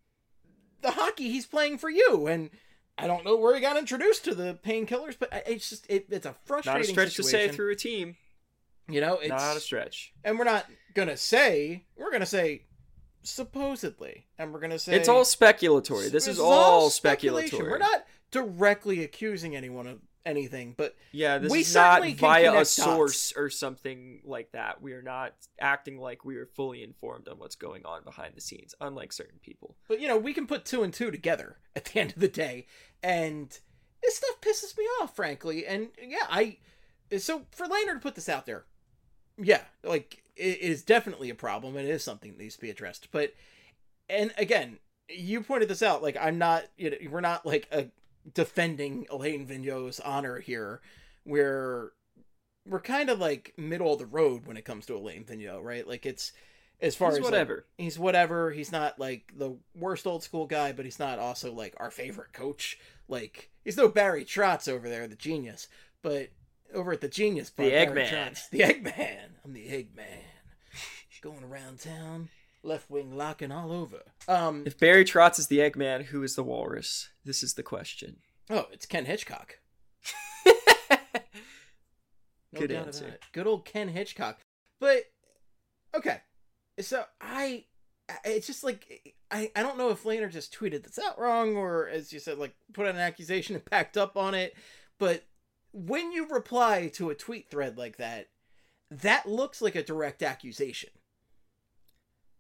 D: the hockey he's playing for you. And I don't know where he got introduced to the painkillers, but it's just it, it's a frustrating situation.
E: Not a stretch situation. to say through a team.
D: You know, it's
E: not a stretch.
D: And we're not gonna say we're gonna say supposedly, and we're gonna say
E: it's all speculatory. This is all, all speculatory.
D: We're not directly accusing anyone of anything, but
E: yeah, this
D: we
E: is not via a
D: dots.
E: source or something like that. We are not acting like we are fully informed on what's going on behind the scenes, unlike certain people.
D: But you know, we can put two and two together at the end of the day, and this stuff pisses me off, frankly. And yeah, I so for Lehner to put this out there, yeah, like it is definitely a problem, and it is something that needs to be addressed. But and again, you pointed this out. Like I'm not, you know, we're not like a defending Alain Vigneault's honor here, where we're kind of like middle of the road when it comes to Alain Vigneault, right? Like it's as far
E: he's
D: as
E: whatever
D: like, he's whatever. He's not like the worst old school guy, but he's not also like our favorite coach. Like he's no Barry Trotz over there, the genius, but over at the Genius Bar,
E: the Eggman,
D: the Eggman. I'm the Eggman, going around town. Left wing locking all over. Um,
E: if Barry Trotz is the Eggman, who is the Walrus? This is the question.
D: Oh, it's Ken Hitchcock. No
E: Good
D: doubt
E: answer.
D: about it. Good old Ken Hitchcock. But okay, so I, it's just like I, I don't know if Lehner just tweeted this out wrong, or as you said, like put out an accusation and backed up on it. But when you reply to a tweet thread like that, that looks like a direct accusation.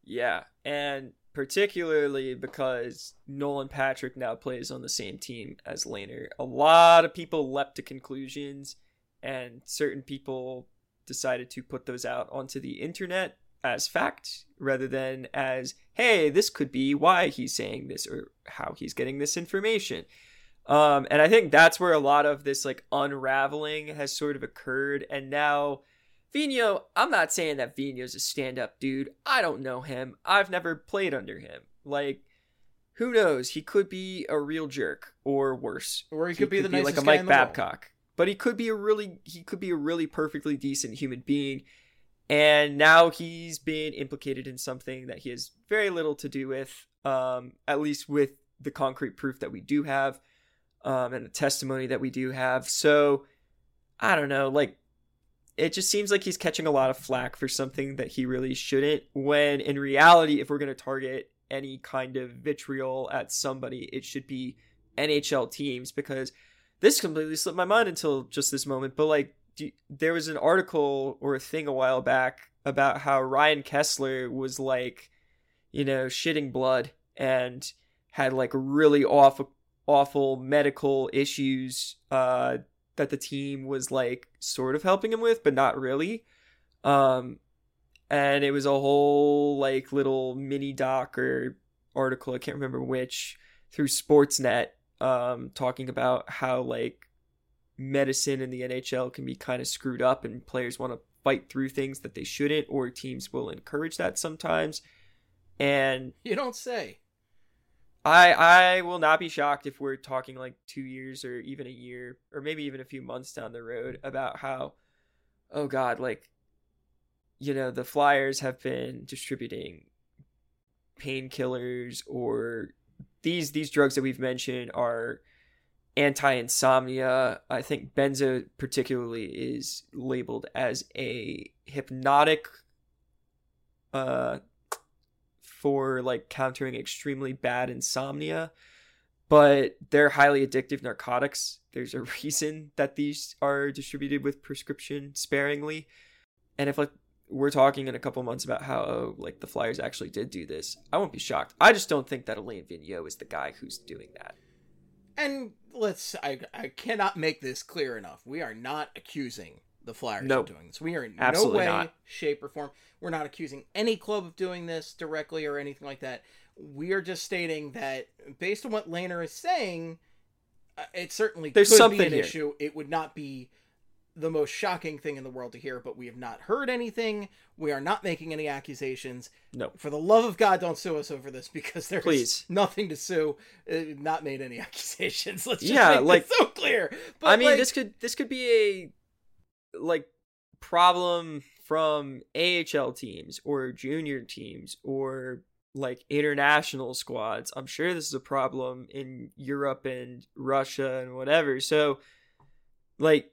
E: Yeah, and particularly because Nolan Patrick now plays on the same team as Lehner. A lot of people leapt to conclusions, and certain people decided to put those out onto the internet as fact rather than as, hey, this could be why he's saying this or how he's getting this information. Um, and I think that's where a lot of this like unraveling has sort of occurred. And now Vigneault, I'm not saying that Vigneault's a stand-up dude. I don't know him. I've never played under him. Like, who knows? He could be a real jerk or worse.
D: Or he could be the nicest
E: like a
D: guy
E: Mike
D: in the world.
E: Babcock. But he could be a really he could be a really perfectly decent human being. And now he's been implicated in something that he has very little to do with, um, at least with the concrete proof that we do have, um, and the testimony that we do have. So, I don't know, like, it just seems like he's catching a lot of flack for something that he really shouldn't, when in reality, if we're going to target any kind of vitriol at somebody, it should be N H L teams, because this completely slipped my mind until just this moment, but like, do, there was an article or a thing a while back about how Ryan Kessler was like, you know, shitting blood and had like really awful, awful medical issues uh, that the team was like sort of helping him with, but not really. Um, and it was a whole like little mini doc or article, I can't remember which, through Sportsnet, um, talking about how like medicine in the N H L can be kind of screwed up and players want to fight through things that they shouldn't, or teams will encourage that sometimes. And
D: you don't say.
E: I I will not be shocked if we're talking like two years or even a year or maybe even a few months down the road about how, oh God, like, you know, the Flyers have been distributing painkillers, or these these drugs that we've mentioned are anti-insomnia. I think benzo particularly is labeled as a hypnotic uh for like countering extremely bad insomnia, but they're highly addictive narcotics. There's a reason that these are distributed with prescription sparingly. And if like we're talking in a couple months about how oh, like the Flyers actually did do this, I won't be shocked. I just don't think that Alain Vigneault is the guy who's doing that.
D: And let's, I, I cannot make this clear enough. We are not accusing the Flyers
E: Nope.
D: of doing this. We are in
E: Absolutely
D: no way,
E: not.
D: shape, or form. We're not accusing any club of doing this directly or anything like that. We are just stating that based on what Lehner is saying, uh, it certainly
E: There's
D: could
E: something
D: be an
E: here.
D: issue. It would not be the most shocking thing in the world to hear, but we have not heard anything. We are not making any accusations.
E: No.
D: For the love of God, don't sue us over this, because there's
E: Please.
D: nothing to sue. Uh, not made any accusations. Let's just
E: Yeah,
D: make
E: like-
D: this so clear. But
E: I mean,
D: like,
E: this could this could be a like problem from A H L teams or junior teams or like international squads. I'm sure this is a problem in Europe and Russia and whatever. So like,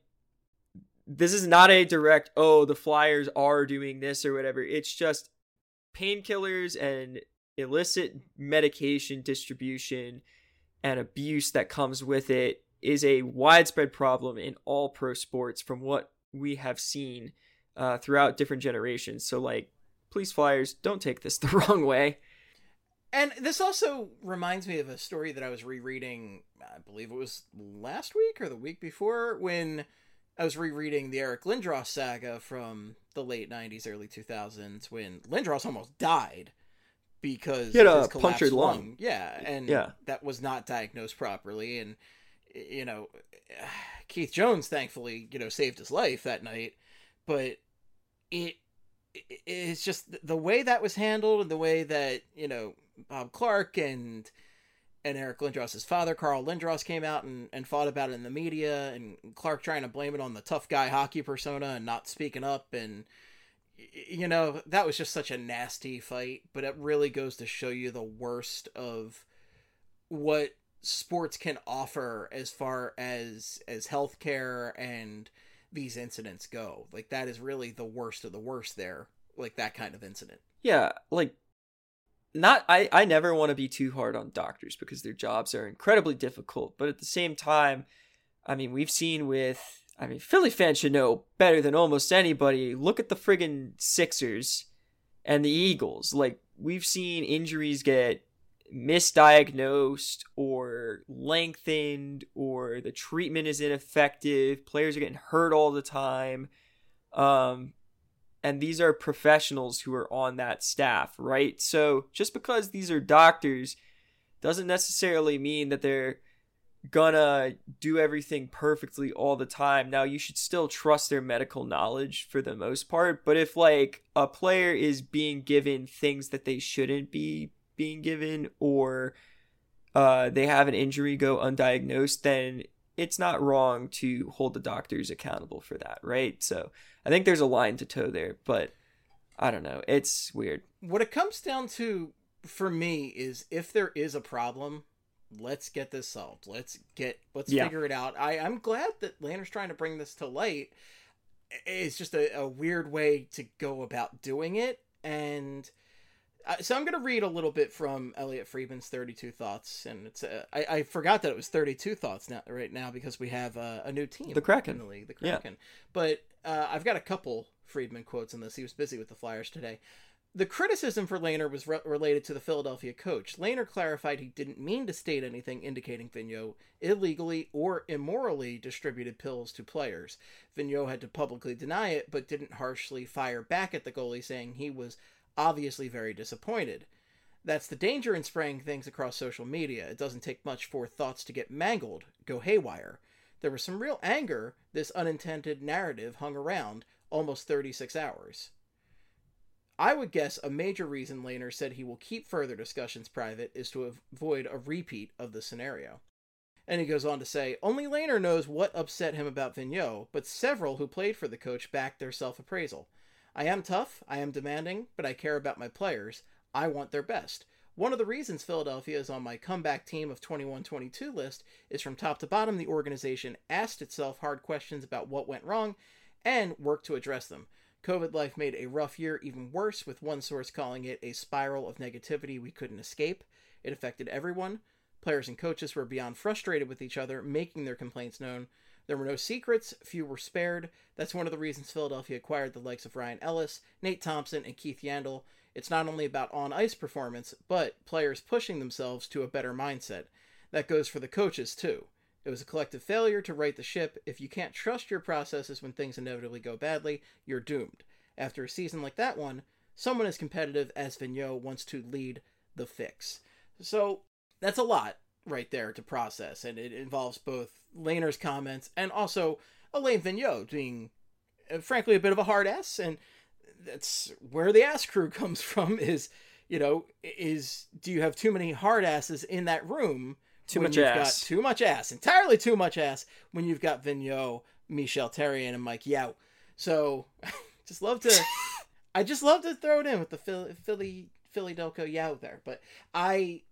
E: this is not a direct, oh, the Flyers are doing this or whatever. It's just painkillers and illicit medication distribution and abuse that comes with it is a widespread problem in all pro sports from what we have seen uh, throughout different generations. So, like, please, Flyers, don't take this the wrong way.
D: and this also reminds me of a story that I was rereading, I believe it was last week or the week before, when I was rereading the Eric Lindros saga from the late nineties, early two thousands, when Lindros almost died because
E: He had
D: of
E: a
D: his collapsed
E: punctured lung.
D: lung. Yeah, and
E: Yeah.
D: that was not diagnosed properly. And, you know, Keith Jones, thankfully, you know, saved his life that night. But it it's just the way that was handled, and the way that, you know, Bob Clark and and Eric Lindros' father, Carl Lindros, came out and, and fought about it in the media, and Clark trying to blame it on the tough guy hockey persona and not speaking up. And, you know, that was just such a nasty fight, but it really goes to show you the worst of what sports can offer as far as, as healthcare and these incidents go. Like, that is really the worst of the worst there. Like, that kind of incident.
E: Yeah, like, not I, I never want to be too hard on doctors because their jobs are incredibly difficult. But at the same time, I mean, we've seen with, I mean, Philly fans should know better than almost anybody. Look at the friggin' Sixers and the Eagles. Like, we've seen injuries get misdiagnosed or lengthened, or the treatment is ineffective. Players are getting hurt all the time. Um, and these are professionals who are on that staff, right? So just because these are doctors doesn't necessarily mean that they're gonna do everything perfectly all the time. Now, you should still trust their medical knowledge for the most part, but if like a player is being given things that they shouldn't be being given, or uh, they have an injury go undiagnosed, then it's not wrong to hold the doctors accountable for that, right? So I think there's a line to toe there, but I don't know. It's weird.
D: What it comes down to for me is, if there is a problem, let's get this solved. Let's get, let's
E: Yeah.
D: figure it out. I, I'm glad that Lanner's trying to bring this to light. It's just a, a weird way to go about doing it. And uh, so I'm going to read a little bit from Elliot Friedman's thirty-two Thoughts. And it's, uh, I, I forgot that it was thirty-two Thoughts now, right now, because we have uh, a new team.
E: The Kraken.
D: In the league, the Kraken. Yeah. But uh, I've got a couple Friedman quotes in this. He was busy with the Flyers today. The criticism for Lehner was re- related to the Philadelphia coach. Lehner clarified he didn't mean to state anything indicating Vigneault illegally or immorally distributed pills to players. Vigneault had to publicly deny it, but didn't harshly fire back at the goalie, saying he was obviously very disappointed. That's the danger in spraying things across social media. It doesn't take much for thoughts to get mangled, go haywire. There was some real anger this unintended narrative hung around almost thirty-six hours. I would guess a major reason Lehner said he will keep further discussions private is to avoid a repeat of the scenario. And he goes on to say, only Lehner knows what upset him about Vigneault, but several who played for the coach backed their self-appraisal. I am tough, I am demanding, but I care about my players. I want their best. One of the reasons Philadelphia is on my comeback team of twenty-one twenty-two list is from top to bottom the organization asked itself hard questions about what went wrong and worked to address them. COVID life made a rough year even worse, with one source calling it a spiral of negativity we couldn't escape. It affected everyone. Players and coaches were beyond frustrated with each other, making their complaints known. There were no secrets, few were spared. That's one of the reasons Philadelphia acquired the likes of Ryan Ellis, Nate Thompson, and Keith Yandel. It's not only about on-ice performance, but players pushing themselves to a better mindset. That goes for the coaches, too. It was a collective failure to right the ship. If you can't trust your processes when things inevitably go badly, you're doomed. After a season like that one, someone as competitive as Vigneault wants to lead the fix. So that's a lot right there to process, and it involves both Lehner's comments and also Alain Vigneault being, uh, frankly, a bit of a hard ass, and that's where the ass crew comes from. Is, you know, is do you have too many hard asses in that room?
E: Too
D: when
E: much
D: you've
E: ass.
D: Got too much ass. Entirely too much ass when you've got Vigneault, Michel Therrien, and Mike Yao. So, just love to... I just love to throw it in with the Philly, Philly, Philly Delco Yao there. But I...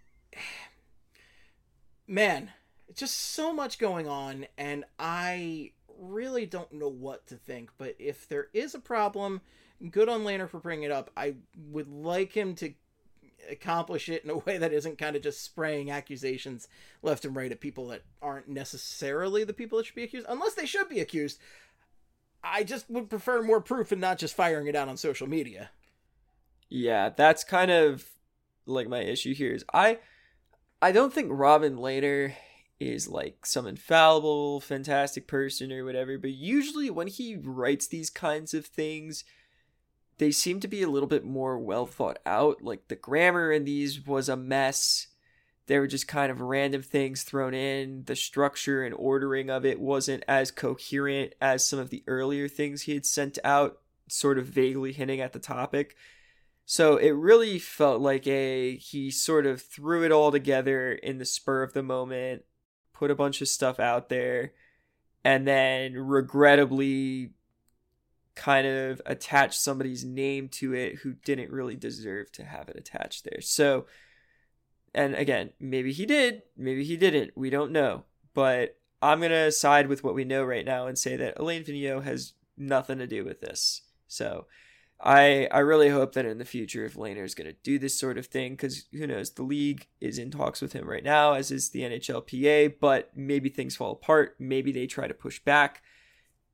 D: Man, just so much going on, and I really don't know what to think. But if there is a problem, good on Lehner for bringing it up. I would like him to accomplish it in a way that isn't kind of just spraying accusations left and right at people that aren't necessarily the people that should be accused, unless they should be accused. I just would prefer more proof and not just firing it out on social media.
E: Yeah, that's kind of like my issue here is I I don't think Robin Lehner is like some infallible, fantastic person or whatever, but usually when he writes these kinds of things, they seem to be a little bit more well thought out. Like the grammar in these was a mess. They were just kind of random things thrown in. The structure and ordering of it wasn't as coherent as some of the earlier things he had sent out, sort of vaguely hinting at the topic. So it really felt like a, he sort of threw it all together in the spur of the moment, put a bunch of stuff out there, and then regrettably kind of attach somebody's name to it who didn't really deserve to have it attached there. So, and again, maybe he did, maybe he didn't, we don't know. But I'm going to side with what we know right now and say that Alain Vigneault has nothing to do with this. So I I really hope that in the future, if Lehner is going to do this sort of thing, because who knows, the league is in talks with him right now, as is the N H L P A, but maybe things fall apart, maybe they try to push back.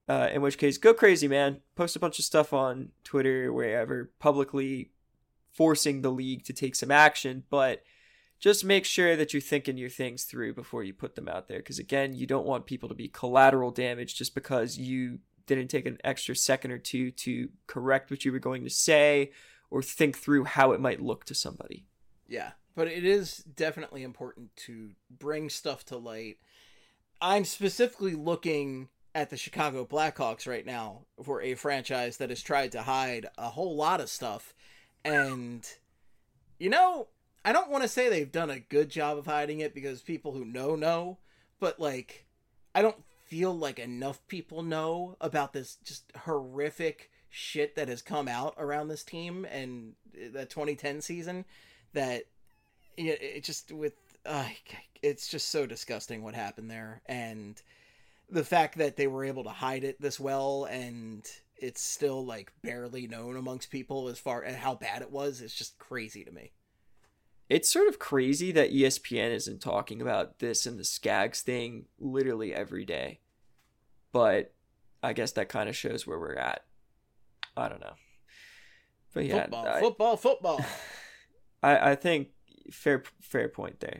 E: Uh, in which case, go crazy, man. Post a bunch of stuff on Twitter, wherever, publicly forcing the league to take some action. But just make sure that you're thinking your things through before you put them out there. Because, again, you don't want people to be collateral damage just because you didn't take an extra second or two to correct what you were going to say or think through how it might look to somebody.
D: Yeah, but it is definitely important to bring stuff to light. I'm specifically looking at the Chicago Blackhawks right now for a franchise that has tried to hide a whole lot of stuff. And, you know, I don't want to say they've done a good job of hiding it because people who know, know. But, like, I don't feel like enough people know about this just horrific shit that has come out around this team and the twenty ten season that it, it just with, uh, it's just so disgusting what happened there. And the fact that they were able to hide it this well and it's still like barely known amongst people as far as how bad it was, is just crazy to me.
E: It's sort of crazy that E S P N isn't talking about this and the Skaggs thing literally every day. But I guess that kind of shows where we're at. I don't know. But yeah,
D: football,
E: I,
D: football, football.
E: I, I think fair fair point there.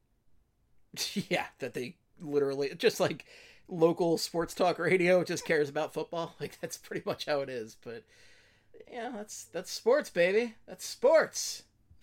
D: Yeah, that they literally, just like local sports talk radio just cares about football. Like, that's pretty much how it is. But yeah, that's that's sports, baby. That's sports.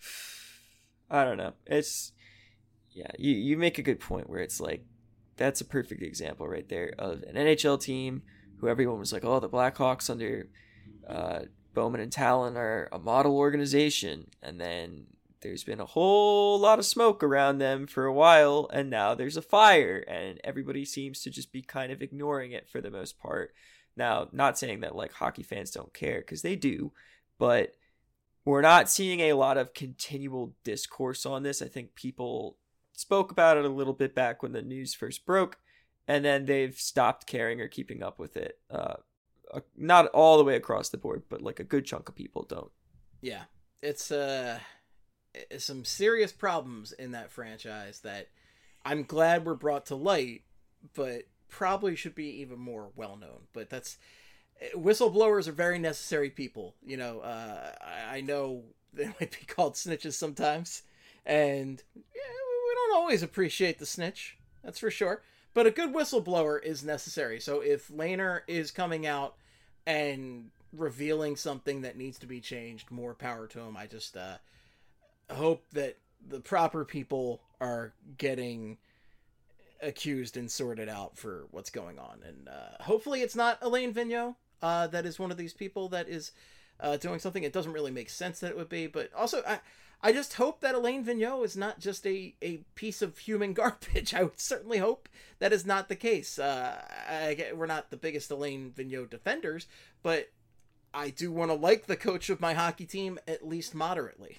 E: I don't know. It's, yeah, you, you make a good point where it's like, that's a perfect example right there of an N H L team who everyone was like, oh, the Blackhawks under uh, Bowman and Talon are a model organization. And then there's been a whole lot of smoke around them for a while, and now there's a fire, and everybody seems to just be kind of ignoring it for the most part. Now, not saying that like hockey fans don't care, because they do, but we're not seeing a lot of continual discourse on this. I think people spoke about it a little bit back when the news first broke, and then they've stopped caring or keeping up with it. Uh, not all the way across the board, but like a good chunk of people don't.
D: Yeah, it's uh, some serious problems in that franchise that I'm glad were brought to light, but probably should be even more well known. But that's, whistleblowers are very necessary people. You know, uh, I, I know they might be called snitches sometimes, and yeah, we don't always appreciate the snitch, that's for sure. But a good whistleblower is necessary. So if Lehner is coming out and revealing something that needs to be changed, more power to him. I just uh, hope that the proper people are getting accused and sorted out for what's going on. And uh, hopefully it's not Alain Vigneault uh, that is one of these people that is uh, doing something. It doesn't really make sense that it would be. But also, I, I just hope that Alain Vigneault is not just a, a piece of human garbage. I would certainly hope that is not the case. Uh, I, we're not the biggest Alain Vigneault defenders, but I do want to like the coach of my hockey team at least moderately.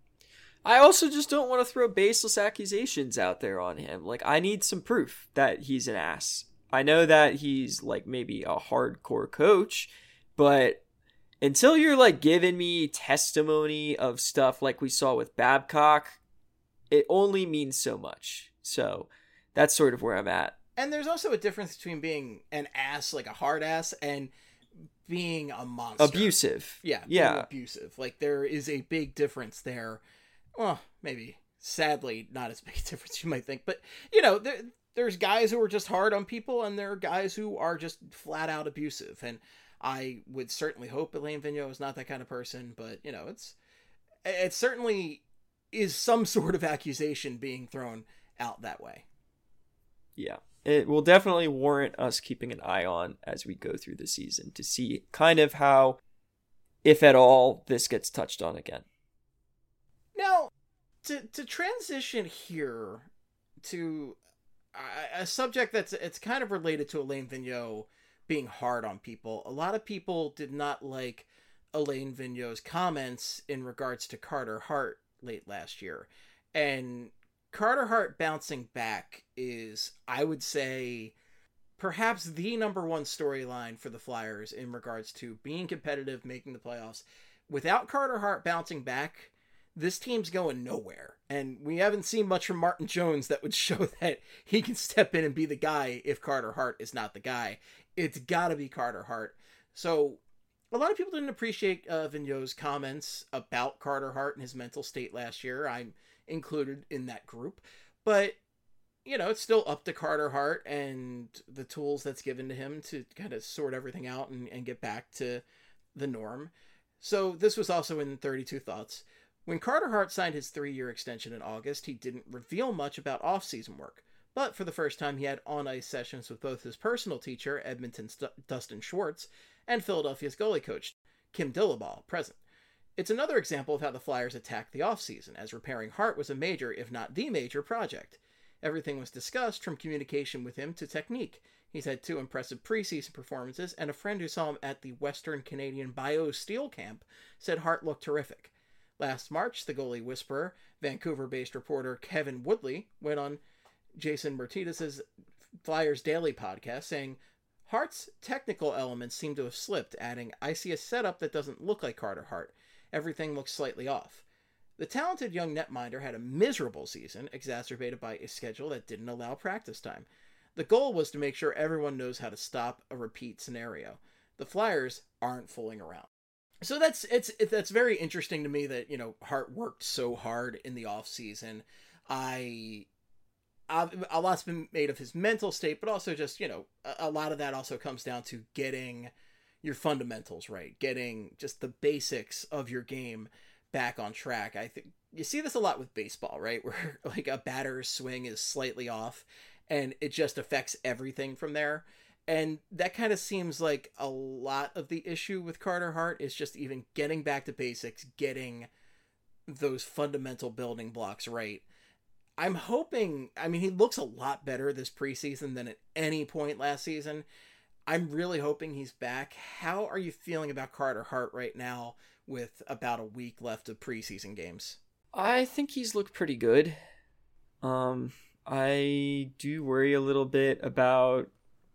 E: I also just don't want to throw baseless accusations out there on him. Like, I need some proof that he's an ass. I know that he's, like, maybe a hardcore coach, but until you're, like, giving me testimony of stuff like we saw with Babcock, it only means so much. So that's sort of where I'm at.
D: And there's also a difference between being an ass, like a hard ass, and being a monster.
E: Abusive.
D: Yeah.
E: Yeah.
D: Abusive. Like, there is a big difference there. Well, maybe, sadly, not as big a difference as you might think. But, you know, there, there's guys who are just hard on people, and there are guys who are just flat out abusive. And I would certainly hope Alain Vigneault is not that kind of person. But, you know, it's it certainly is some sort of accusation being thrown out that way.
E: Yeah. It will definitely warrant us keeping an eye on as we go through the season to see kind of how, if at all, this gets touched on again.
D: Now, to to transition here to a, a subject that's it's kind of related to Alain Vigneault being hard on people. A lot of people did not like Alain Vigneault's comments in regards to Carter Hart late last year. And Carter Hart bouncing back is, I would say, perhaps the number one storyline for the Flyers in regards to being competitive, making the playoffs. Without Carter Hart bouncing back, this team's going nowhere. And we haven't seen much from Martin Jones that would show that he can step in and be the guy if Carter Hart is not the guy. It's got to be Carter Hart. So a lot of people didn't appreciate uh, Vigneault's comments about Carter Hart and his mental state last year. I'm included in that group. But, you know, it's still up to Carter Hart and the tools that's given to him to kind of sort everything out and, and get back to the norm. So this was also in thirty-two Thoughts. When Carter Hart signed his three-year extension in August, he didn't reveal much about off-season work. But for the first time, he had on-ice sessions with both his personal teacher, Edmonton's Dustin Schwartz, and Philadelphia's goalie coach, Kim Dillabaugh, present. It's another example of how the Flyers attacked the off-season, as repairing Hart was a major, if not the major, project. Everything was discussed, from communication with him to technique. He's had two impressive preseason performances, and a friend who saw him at the Western Canadian Bio Steel Camp said Hart looked terrific. Last March, the goalie whisperer, Vancouver-based reporter Kevin Woodley, went on Jason Martinez's Flyers Daily podcast, saying, Hart's technical elements seem to have slipped, adding, I see a setup that doesn't look like Carter Hart. Everything looks slightly off. The talented young netminder had a miserable season, exacerbated by a schedule that didn't allow practice time. The goal was to make sure everyone knows how to stop a repeat scenario. The Flyers aren't fooling around. So that's it's it, that's very interesting to me that, you know, Hart worked so hard in the off season. I, I a lot's been made of his mental state, but also just, you know, a, a lot of that also comes down to getting your fundamentals right, getting just the basics of your game back on track. I think you see this a lot with baseball, right? Where like a batter's swing is slightly off and it just affects everything from there. And that kind of seems like a lot of the issue with Carter Hart is just even getting back to basics, getting those fundamental building blocks right. I'm hoping, I mean, he looks a lot better this preseason than at any point last season. I'm really hoping he's back. How are you feeling about Carter Hart right now with about a week left of preseason games?
E: I think he's looked pretty good. Um, I do worry a little bit about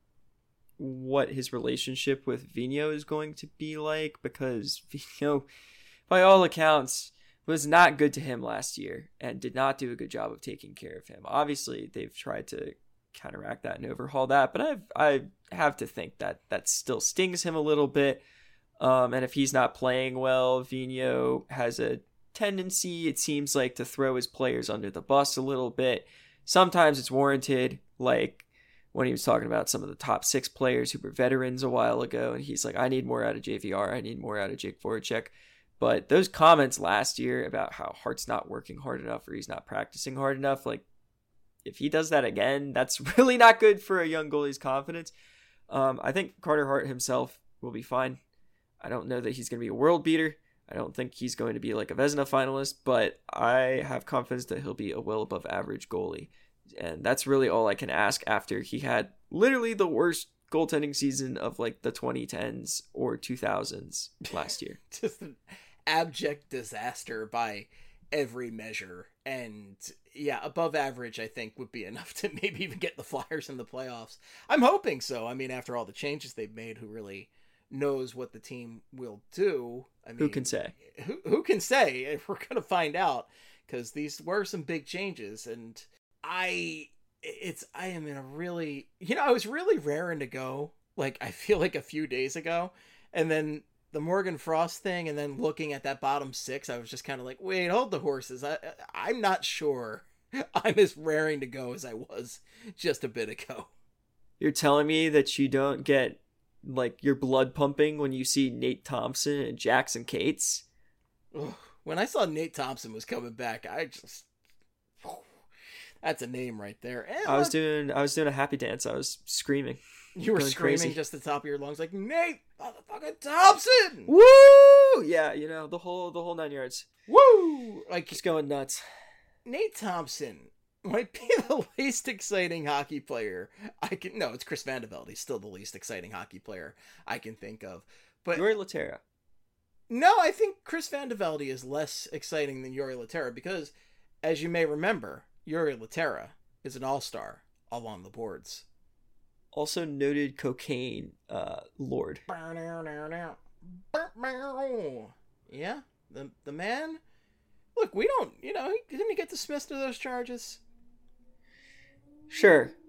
E: what his relationship with Vigneault is going to be like, because Vigneault, by all accounts, was not good to him last year and did not do a good job of taking care of him. Obviously, they've tried to counteract that and overhaul that, but I've, I have to think that that still stings him a little bit. Um, and if he's not playing well, Vigneault has a tendency, it seems like, to throw his players under the bus a little bit. Sometimes it's warranted, like when he was talking about some of the top six players who were veterans a while ago, and he's like, I need more out of J V R, I need more out of Jake Voracek. But those comments last year about how Hart's not working hard enough or he's not practicing hard enough, like, if he does that again, that's really not good for a young goalie's confidence. Um, I think Carter Hart himself will be fine. I don't know that he's going to be a world beater. I don't think he's going to be like a Vezina finalist, but I have confidence that he'll be a well above average goalie. And that's really all I can ask after he had literally the worst goaltending season of like the twenty tens or two thousands last year.
D: Just an abject disaster by every measure. And yeah, above average, I think, would be enough to maybe even get the Flyers in the playoffs. I'm hoping so. I mean, after all the changes they've made, who really knows what the team will do? I mean,
E: who can say?
D: Who, who can say? We're going to find out, because these were some big changes. And I, it's, I am in a really, you know, I was really raring to go, like, I feel like a few days ago. And then the Morgan Frost thing, and then looking at that bottom six, I was just kind of like, wait, hold the horses. I, I'm not sure I'm as raring to go as I was just a bit ago.
E: You're telling me that you don't get like your blood pumping when you see Nate Thompson and Jackson Cates?
D: When I saw Nate Thompson was coming back, I just, that's a name right there. And
E: I was doing, I was doing a happy dance. I was screaming.
D: You were screaming crazy. Just at the top of your lungs, like, Nate motherfucking Thompson!
E: Woo! Yeah, you know, the whole, the whole nine yards.
D: Woo! Like,
E: just going nuts.
D: Nate Thompson might be the least exciting hockey player I can. No, it's Chris Vandevelde. He's still the least exciting hockey player I can think of. But
E: Jori Lehtera.
D: No, I think Chris Vandevelde is less exciting than Jori Lehtera because, as you may remember, Jori Lehtera is an all-star along the boards.
E: Also noted cocaine uh, lord.
D: Yeah, the the man. Look, we don't, you know, didn't he get dismissed of those charges?
E: Sure.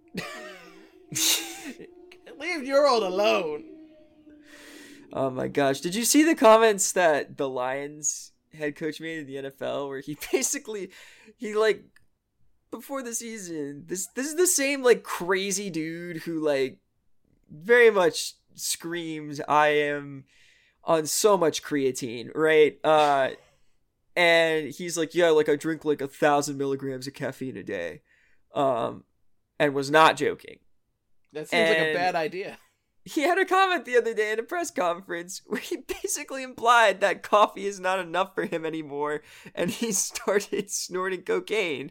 D: Leave Ural alone.
E: Oh my gosh. Did you see the comments that the Lions head coach made in the N F L where he basically, he like, before the season, this this is the same like crazy dude who like very much screams, I am on so much creatine, right? Uh, and he's like, yeah, like I drink like a thousand milligrams of caffeine a day, um, and was not joking.
D: That seems and like a bad idea.
E: He had a comment the other day in a press conference where he basically implied that coffee is not enough for him anymore, and he started snorting cocaine.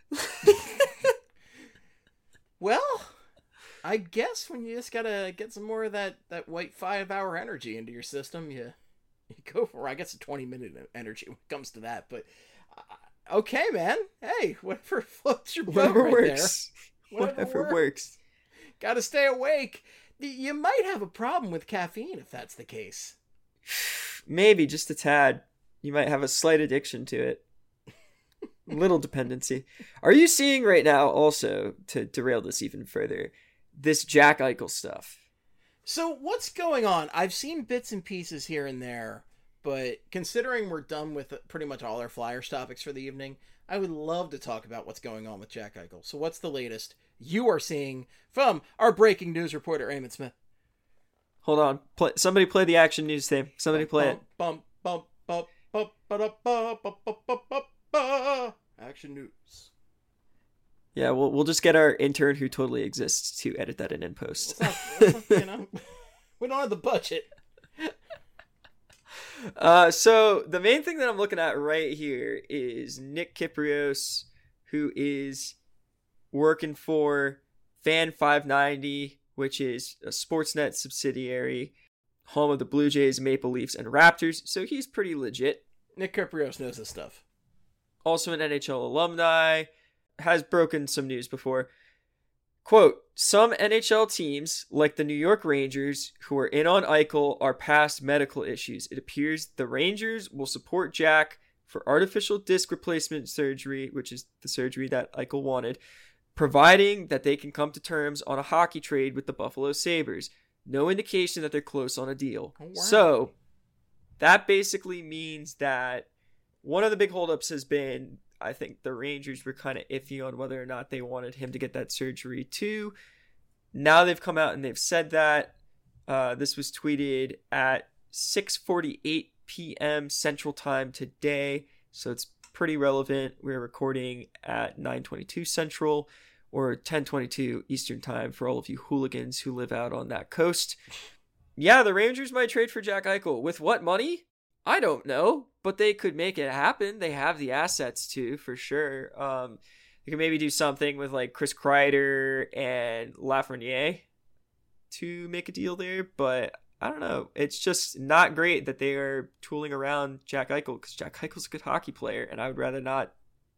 D: Well, I guess when you just gotta get some more of that, that white five-hour energy into your system, you, you go for, I guess, a twenty-minute energy when it comes to that. But, uh, okay, man. Hey, whatever floats your boat
E: Whatever
D: right
E: works.
D: there. Whatever,
E: Whatever
D: works.
E: works.
D: Gotta stay awake. You might have a problem with caffeine if that's the case.
E: Maybe, just a tad. You might have a slight addiction to it. Little dependency. Are you seeing right now, also, to derail this even further, this Jack Eichel stuff?
D: So what's going on? I've seen bits and pieces here and there, but considering we're done with pretty much all our Flyers topics for the evening, I would love to talk about what's going on with Jack Eichel. So what's the latest you are seeing from our breaking news reporter, Eamon Smith?
E: Hold on. Play, somebody play the action news theme. Somebody play it.
D: Bum, bum, bum, bum, bum, bum, bum, bum, bum, bum. Action news.
E: Yeah, we'll we'll just get our intern who totally exists to edit that in in post.
D: Not, not, you know, we don't have the budget.
E: Uh, so the main thing that I'm looking at right here is Nick Kypreos, who is working for Fan five ninety, which is a Sportsnet subsidiary, home of the Blue Jays, Maple Leafs, and Raptors. So he's pretty legit.
D: Nick Kypreos knows this stuff.
E: Also an N H L alumni, has broken some news before. Quote, some N H L teams, like the New York Rangers, who are in on Eichel, are past medical issues. It appears the Rangers will support Jack for artificial disc replacement surgery, which is the surgery that Eichel wanted, providing that they can come to terms on a hockey trade with the Buffalo Sabres. No indication that they're close on a deal. Oh, wow. So that basically means that one of the big holdups has been, I think the Rangers were kind of iffy on whether or not they wanted him to get that surgery too. Now they've come out and they've said that. Uh, this was tweeted at six forty-eight p.m. Central Time today, so it's pretty relevant. We're recording at nine twenty-two Central or ten twenty-two Eastern Time for all of you hooligans who live out on that coast. Yeah, the Rangers might trade for Jack Eichel. With what money? I don't know, but they could make it happen. They have the assets to, for sure. Um, they could maybe do something with like Chris Kreider and Lafreniere to make a deal there, but I don't know. It's just not great that they are tooling around Jack Eichel because Jack Eichel's a good hockey player, and I would rather not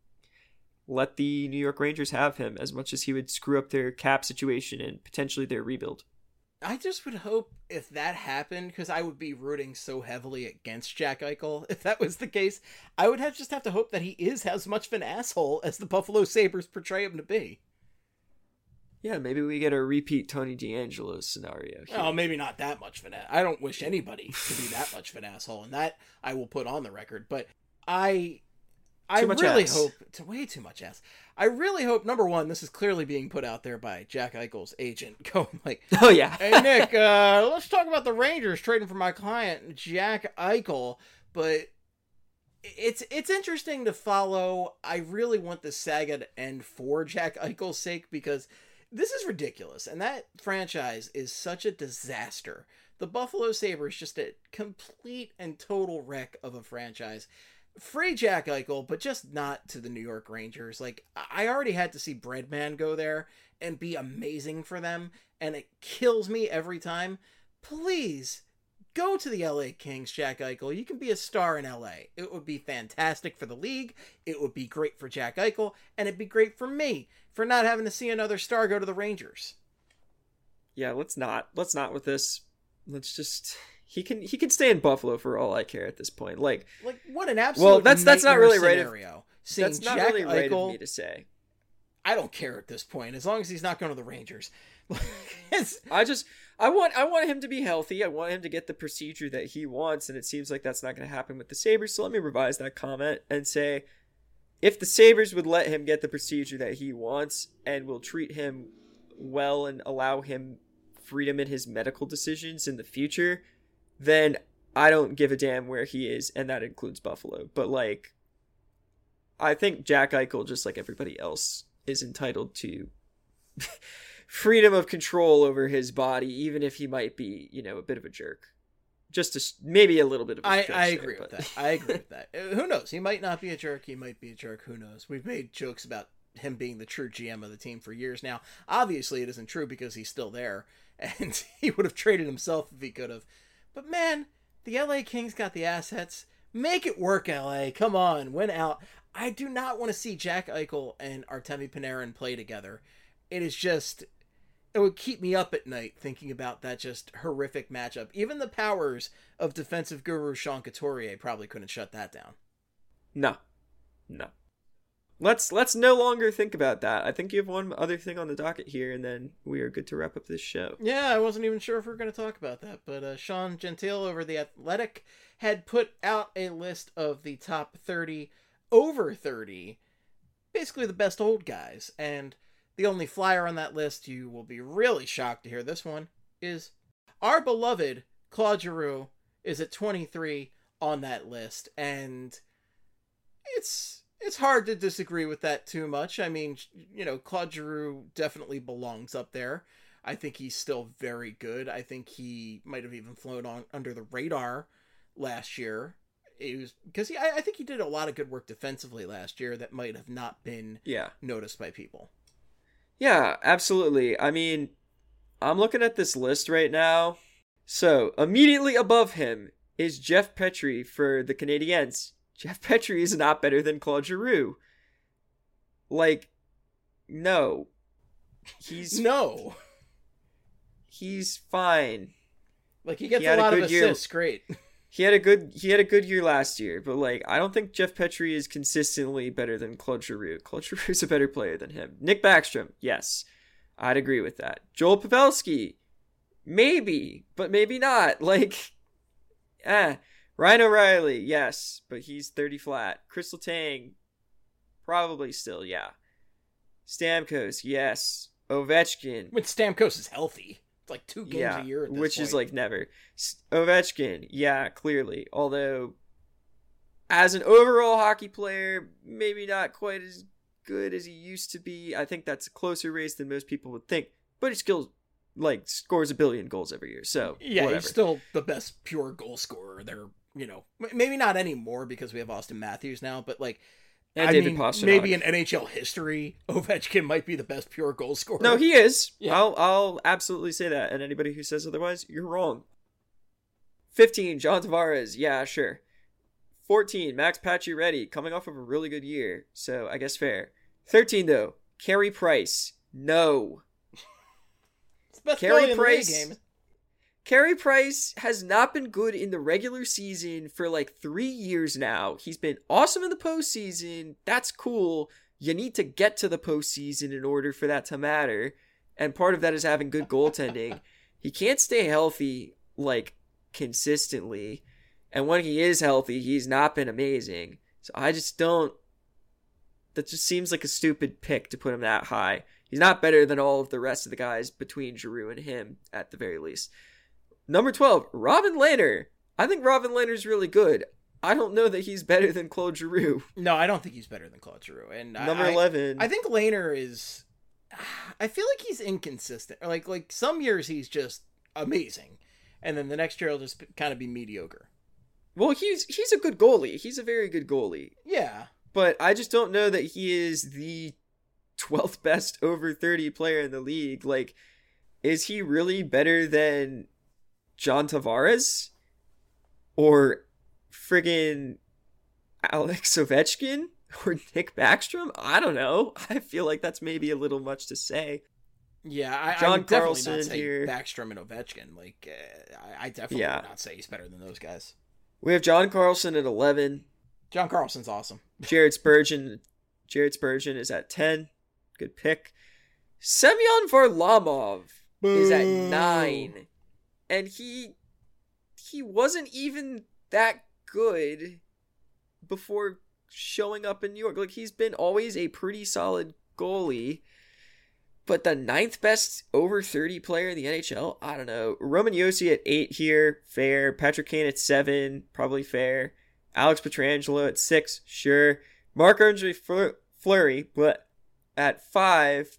E: let the New York Rangers have him as much as he would screw up their cap situation and potentially their rebuild.
D: I just would hope if that happened, because I would be rooting so heavily against Jack Eichel. If that was the case, I would have just have to hope that he is as much of an asshole as the Buffalo Sabres portray him to be.
E: Yeah, maybe we get a repeat Tony DeAngelo scenario here.
D: Oh, maybe not that much of an ass. I don't wish anybody to be that much of an asshole, and that I will put on the record. But I, I really ass. hope to way too much ass. I really hope, number one, this is clearly being put out there by Jack Eichel's agent, going like,
E: "Oh yeah,
D: hey Nick, uh, let's talk about the Rangers trading for my client Jack Eichel." But it's it's interesting to follow. I really want the saga to end for Jack Eichel's sake because this is ridiculous, and that franchise is such a disaster. The Buffalo Sabres just a complete and total wreck of a franchise. Free Jack Eichel, but just not to the New York Rangers. Like, I already had to see Breadman go there and be amazing for them, and it kills me every time. Please, go to the L A Kings, Jack Eichel. You can be a star in L A. It would be fantastic for the league. It would be great for Jack Eichel, and it'd be great for me for not having to see another star go to the Rangers.
E: Yeah, let's not. Let's not with this. Let's just... He can he can stay in Buffalo for all I care at this point. Like,
D: like what an absolute
E: well, that's that's not really
D: scenario.
E: right. Of,
D: Seeing
E: that's not
D: Jack
E: really right
D: Eichel,
E: of me to say.
D: I don't care at this point, as long as he's not going to the Rangers.
E: I just I want I want him to be healthy. I want him to get the procedure that he wants, and it seems like that's not going to happen with the Sabres. So let me revise that comment and say, if the Sabres would let him get the procedure that he wants and will treat him well and allow him freedom in his medical decisions in the future, then I don't give a damn where he is, and that includes Buffalo. But, like, I think Jack Eichel, just like everybody else, is entitled to freedom of control over his body, even if he might be, you know, a bit of a jerk. Just to, maybe a little bit of a
D: I,
E: stretch
D: I
E: there,
D: agree
E: but...
D: with that. I agree with that. Who knows? He might not be a jerk. He might be a jerk. Who knows? We've made jokes about him being the true G M of the team for years now. Obviously, it isn't true because he's still there, and he would have traded himself if he could have. But, man, the L A Kings got the assets. Make it work, L A. Come on, win out. I do not want to see Jack Eichel and Artemi Panarin play together. It is just... It would keep me up at night thinking about that just horrific matchup. Even the powers of defensive guru Sean Couturier probably couldn't shut that down.
E: No. No. Let's let's no longer think about that. I think you have one other thing on the docket here, and then we are good to wrap up this show.
D: Yeah, I wasn't even sure if we were going to talk about that, but uh, Sean Gentile over The Athletic had put out a list of the top thirty over thirty, basically the best old guys, and the only flyer on that list, you will be really shocked to hear this one, is our beloved Claude Giroux is at twenty-three on that list, and it's it's hard to disagree with that too much. I mean, you know, Claude Giroux definitely belongs up there. I think he's still very good. I think he might have even flown on under the radar last year. It was because he, I, I think he did a lot of good work defensively last year that might have not been
E: yeah.
D: noticed by people.
E: Yeah, absolutely. I mean, I'm looking at this list right now. So, immediately above him is Jeff Petrie for the Canadiens. Jeff Petrie is not better than Claude Giroux. Like, no. He's...
D: No.
E: He's fine.
D: Like, he gets
E: he
D: a lot
E: a
D: of assists, year. Great.
E: He had a good he had a good year last year, but like I don't think Jeff Petrie is consistently better than Claude Giroux. Claude Giroux is a better player than him. Nick Backstrom, yes, I'd agree with that. Joel Pavelski, maybe, but maybe not. Like, eh. Ryan O'Reilly, yes, but he's thirty flat. Chris Letang, probably still, yeah. Stamkos, yes. Ovechkin.
D: When Stamkos is healthy. Like two games
E: yeah,
D: a year at this
E: which
D: point.
E: is like never. Ovechkin, yeah, clearly. Although, as an overall hockey player, maybe not quite as good as he used to be. I think that's a closer race than most people would think. But he still, like, scores a billion goals every year. So,
D: yeah,
E: whatever.
D: He's still the best pure goal scorer there. You know, maybe not anymore because we have Austin Matthews now, but like,
E: and
D: I
E: David
D: mean,
E: Pastrnak.
D: maybe in N H L history, Ovechkin might be the best pure goal scorer.
E: No, he is.
D: Yeah.
E: I'll I'll absolutely say that. And anybody who says otherwise, you're wrong. fifteen, John Tavares. Yeah, sure. fourteen, Max Pacioretty, coming off of a really good year. So I guess fair. thirteen, though, Carey Price. No.
D: It's the best
E: Carey
D: in
E: Price.
D: the game.
E: Carey Price has not been good in the regular season for like three years now. He's been awesome in the postseason. That's cool. You need to get to the postseason in order for that to matter. And part of that is having good goaltending. He can't stay healthy, like, consistently. And when he is healthy, he's not been amazing. So I just don't... That just seems like a stupid pick to put him that high. He's not better than all of the rest of the guys between Giroux and him, at the very least. Number twelve, Robin Lehner. I think Robin Lehner's really good. I don't know that he's better than Claude Giroux.
D: No, I don't think he's better than Claude Giroux. And
E: Number
D: I,
E: eleven.
D: I think Lehner is... I feel like he's inconsistent. Like, like some years he's just amazing. And then the next year he'll just kind of be mediocre.
E: Well, he's he's a good goalie. He's a very good goalie.
D: Yeah.
E: But I just don't know that he is the twelfth best over thirty player in the league. Like, is he really better than John Tavares? Or friggin' Alex Ovechkin? Or Nick Backstrom? I don't know. I feel like that's maybe a little much to say.
D: Yeah, I,
E: John
D: I would definitely
E: Carlson
D: not say
E: here.
D: Backstrom and Ovechkin. Like, uh, I, I definitely
E: Yeah.
D: would not say he's better than those guys.
E: We have John Carlson at eleven.
D: John Carlson's awesome.
E: Jared Spurgeon. Jared Spurgeon is at ten. Good pick. Semyon Varlamov is at nine. And he he wasn't even that good before showing up in New York. Like, he's been always a pretty solid goalie. But the ninth best over thirty player in the N H L? I don't know. Roman Josi at eight here. Fair. Patrick Kane at seven. Probably fair. Alex Pietrangelo at six. Sure. Marc-Andre Fleur- Fleury, but at five.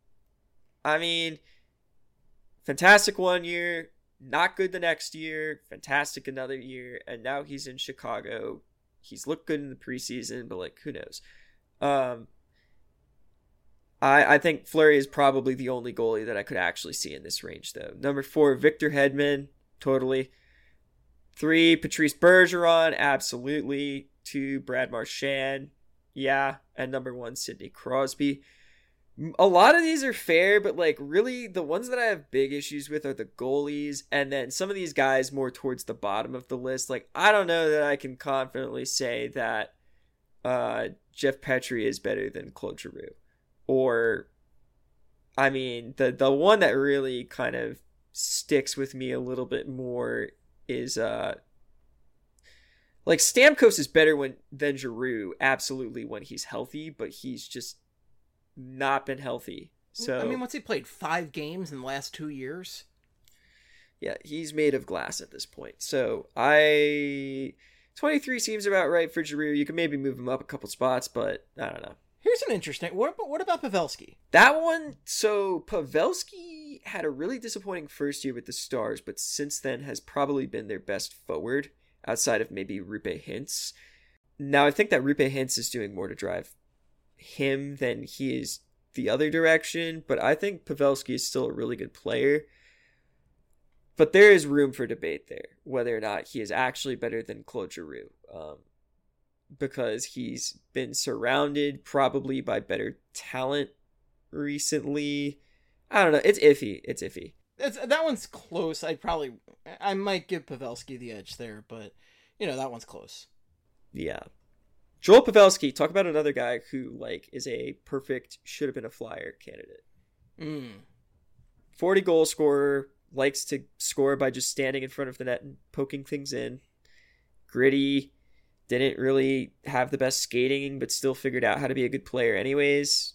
E: I mean, fantastic one year. Not good the next year. Fantastic another year. And now he's in Chicago. He's looked good in the preseason, but, like, who knows? Um... I, I think Fleury is probably the only goalie that I could actually see in this range, though. Number four, Victor Hedman, totally. Three, Patrice Bergeron, absolutely. Two, Brad Marchand, yeah. And number one, Sidney Crosby. A lot of these are fair, but, like, really the ones that I have big issues with are the goalies, and then some of these guys more towards the bottom of the list. Like, I don't know that I can confidently say that uh, Jeff Petrie is better than Claude Giroux. Or, I mean, the the one that really kind of sticks with me a little bit more is, uh, like, Stamkos is better when than Giroux, absolutely, when he's healthy, but he's just not been healthy. So
D: I mean, what's he played? Five games in the last two years?
E: Yeah, he's made of glass at this point. So I... twenty-three seems about right for Giroux. You can maybe move him up a couple spots, but I don't know.
D: Here's an interesting... What, what about Pavelski?
E: That one, so Pavelski had a really disappointing first year with the Stars, but since then has probably been their best forward, outside of maybe Rupe Hintz. Now, I think that Rupe Hintz is doing more to drive him than he is the other direction, but I think Pavelski is still a really good player. But there is room for debate there, whether or not he is actually better than Claude Giroux. Um, because he's been surrounded probably by better talent recently. I don't know. It's iffy. It's iffy.
D: It's, that one's close. I'd probably... I might give Pavelski the edge there, but, you know, that one's close.
E: Yeah. Joel Pavelski, talk about another guy who, like, is a perfect should have been a Flyer candidate.
D: Mm.
E: forty goal scorer, likes to score by just standing in front of the net and poking things in. Gritty. Didn't really have the best skating, but still figured out how to be a good player anyways.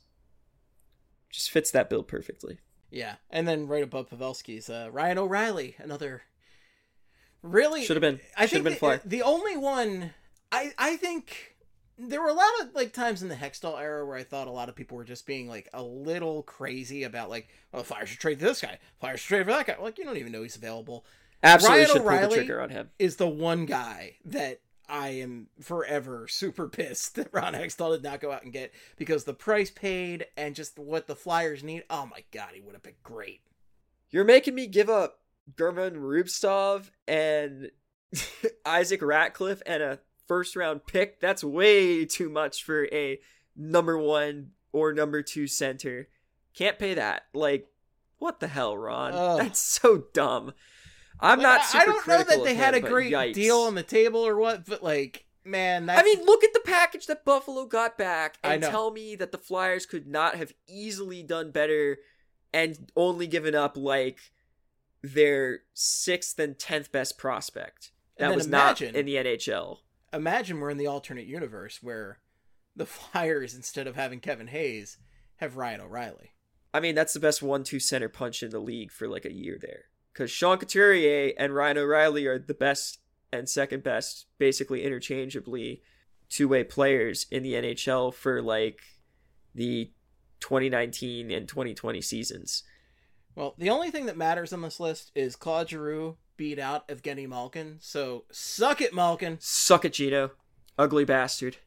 E: Just fits that bill perfectly.
D: Yeah, and then right above Pavelski's uh, Ryan O'Reilly, another really...
E: Should have been.
D: I
E: Should have
D: think
E: been
D: the,
E: Flyer.
D: the only one... I, I think there were a lot of like times in the Hextall era where I thought a lot of people were just being like a little crazy about like, oh, Flyers should trade this guy. Flyers should trade for that guy. Like, you don't even know he's available.
E: Absolutely
D: Ryan
E: should pull the
D: O'Reilly
E: trigger on him.
D: Is the one guy that I am forever super pissed that Ron Hextall did not go out and get, because the price paid and just what the Flyers need. Oh my God, he would have been great.
E: You're making me give up German Rubstov and Isaac Ratcliffe and a first round pick. That's way too much for a number one or number two center. Can't pay that. Like, what the hell, Ron?
D: Ugh.
E: That's so dumb. I'm
D: Like,
E: not
D: I-
E: super
D: I don't know
E: critical
D: that they
E: of
D: had
E: him,
D: a
E: but
D: great
E: yikes.
D: deal on the table or what, but like, man, that's...
E: I mean, look at the package that Buffalo got back
D: I
E: and
D: know.
E: tell me that the Flyers could not have easily done better and only given up, like, their sixth and tenth best prospect.
D: And
E: That
D: then
E: was
D: imagine-
E: not in the N H L.
D: Imagine we're in the alternate universe where the Flyers, instead of having Kevin Hayes, have Ryan O'Reilly.
E: I mean, that's the best one two center punch in the league for, like, a year there. Because Sean Couturier and Ryan O'Reilly are the best and second best, basically interchangeably, two-way players in the N H L for, like, the twenty nineteen and twenty twenty seasons.
D: Well, the only thing that matters on this list is Claude Giroux beat out Evgeny Malkin, so suck it, Malkin.
E: Suck it, Gino. Ugly bastard.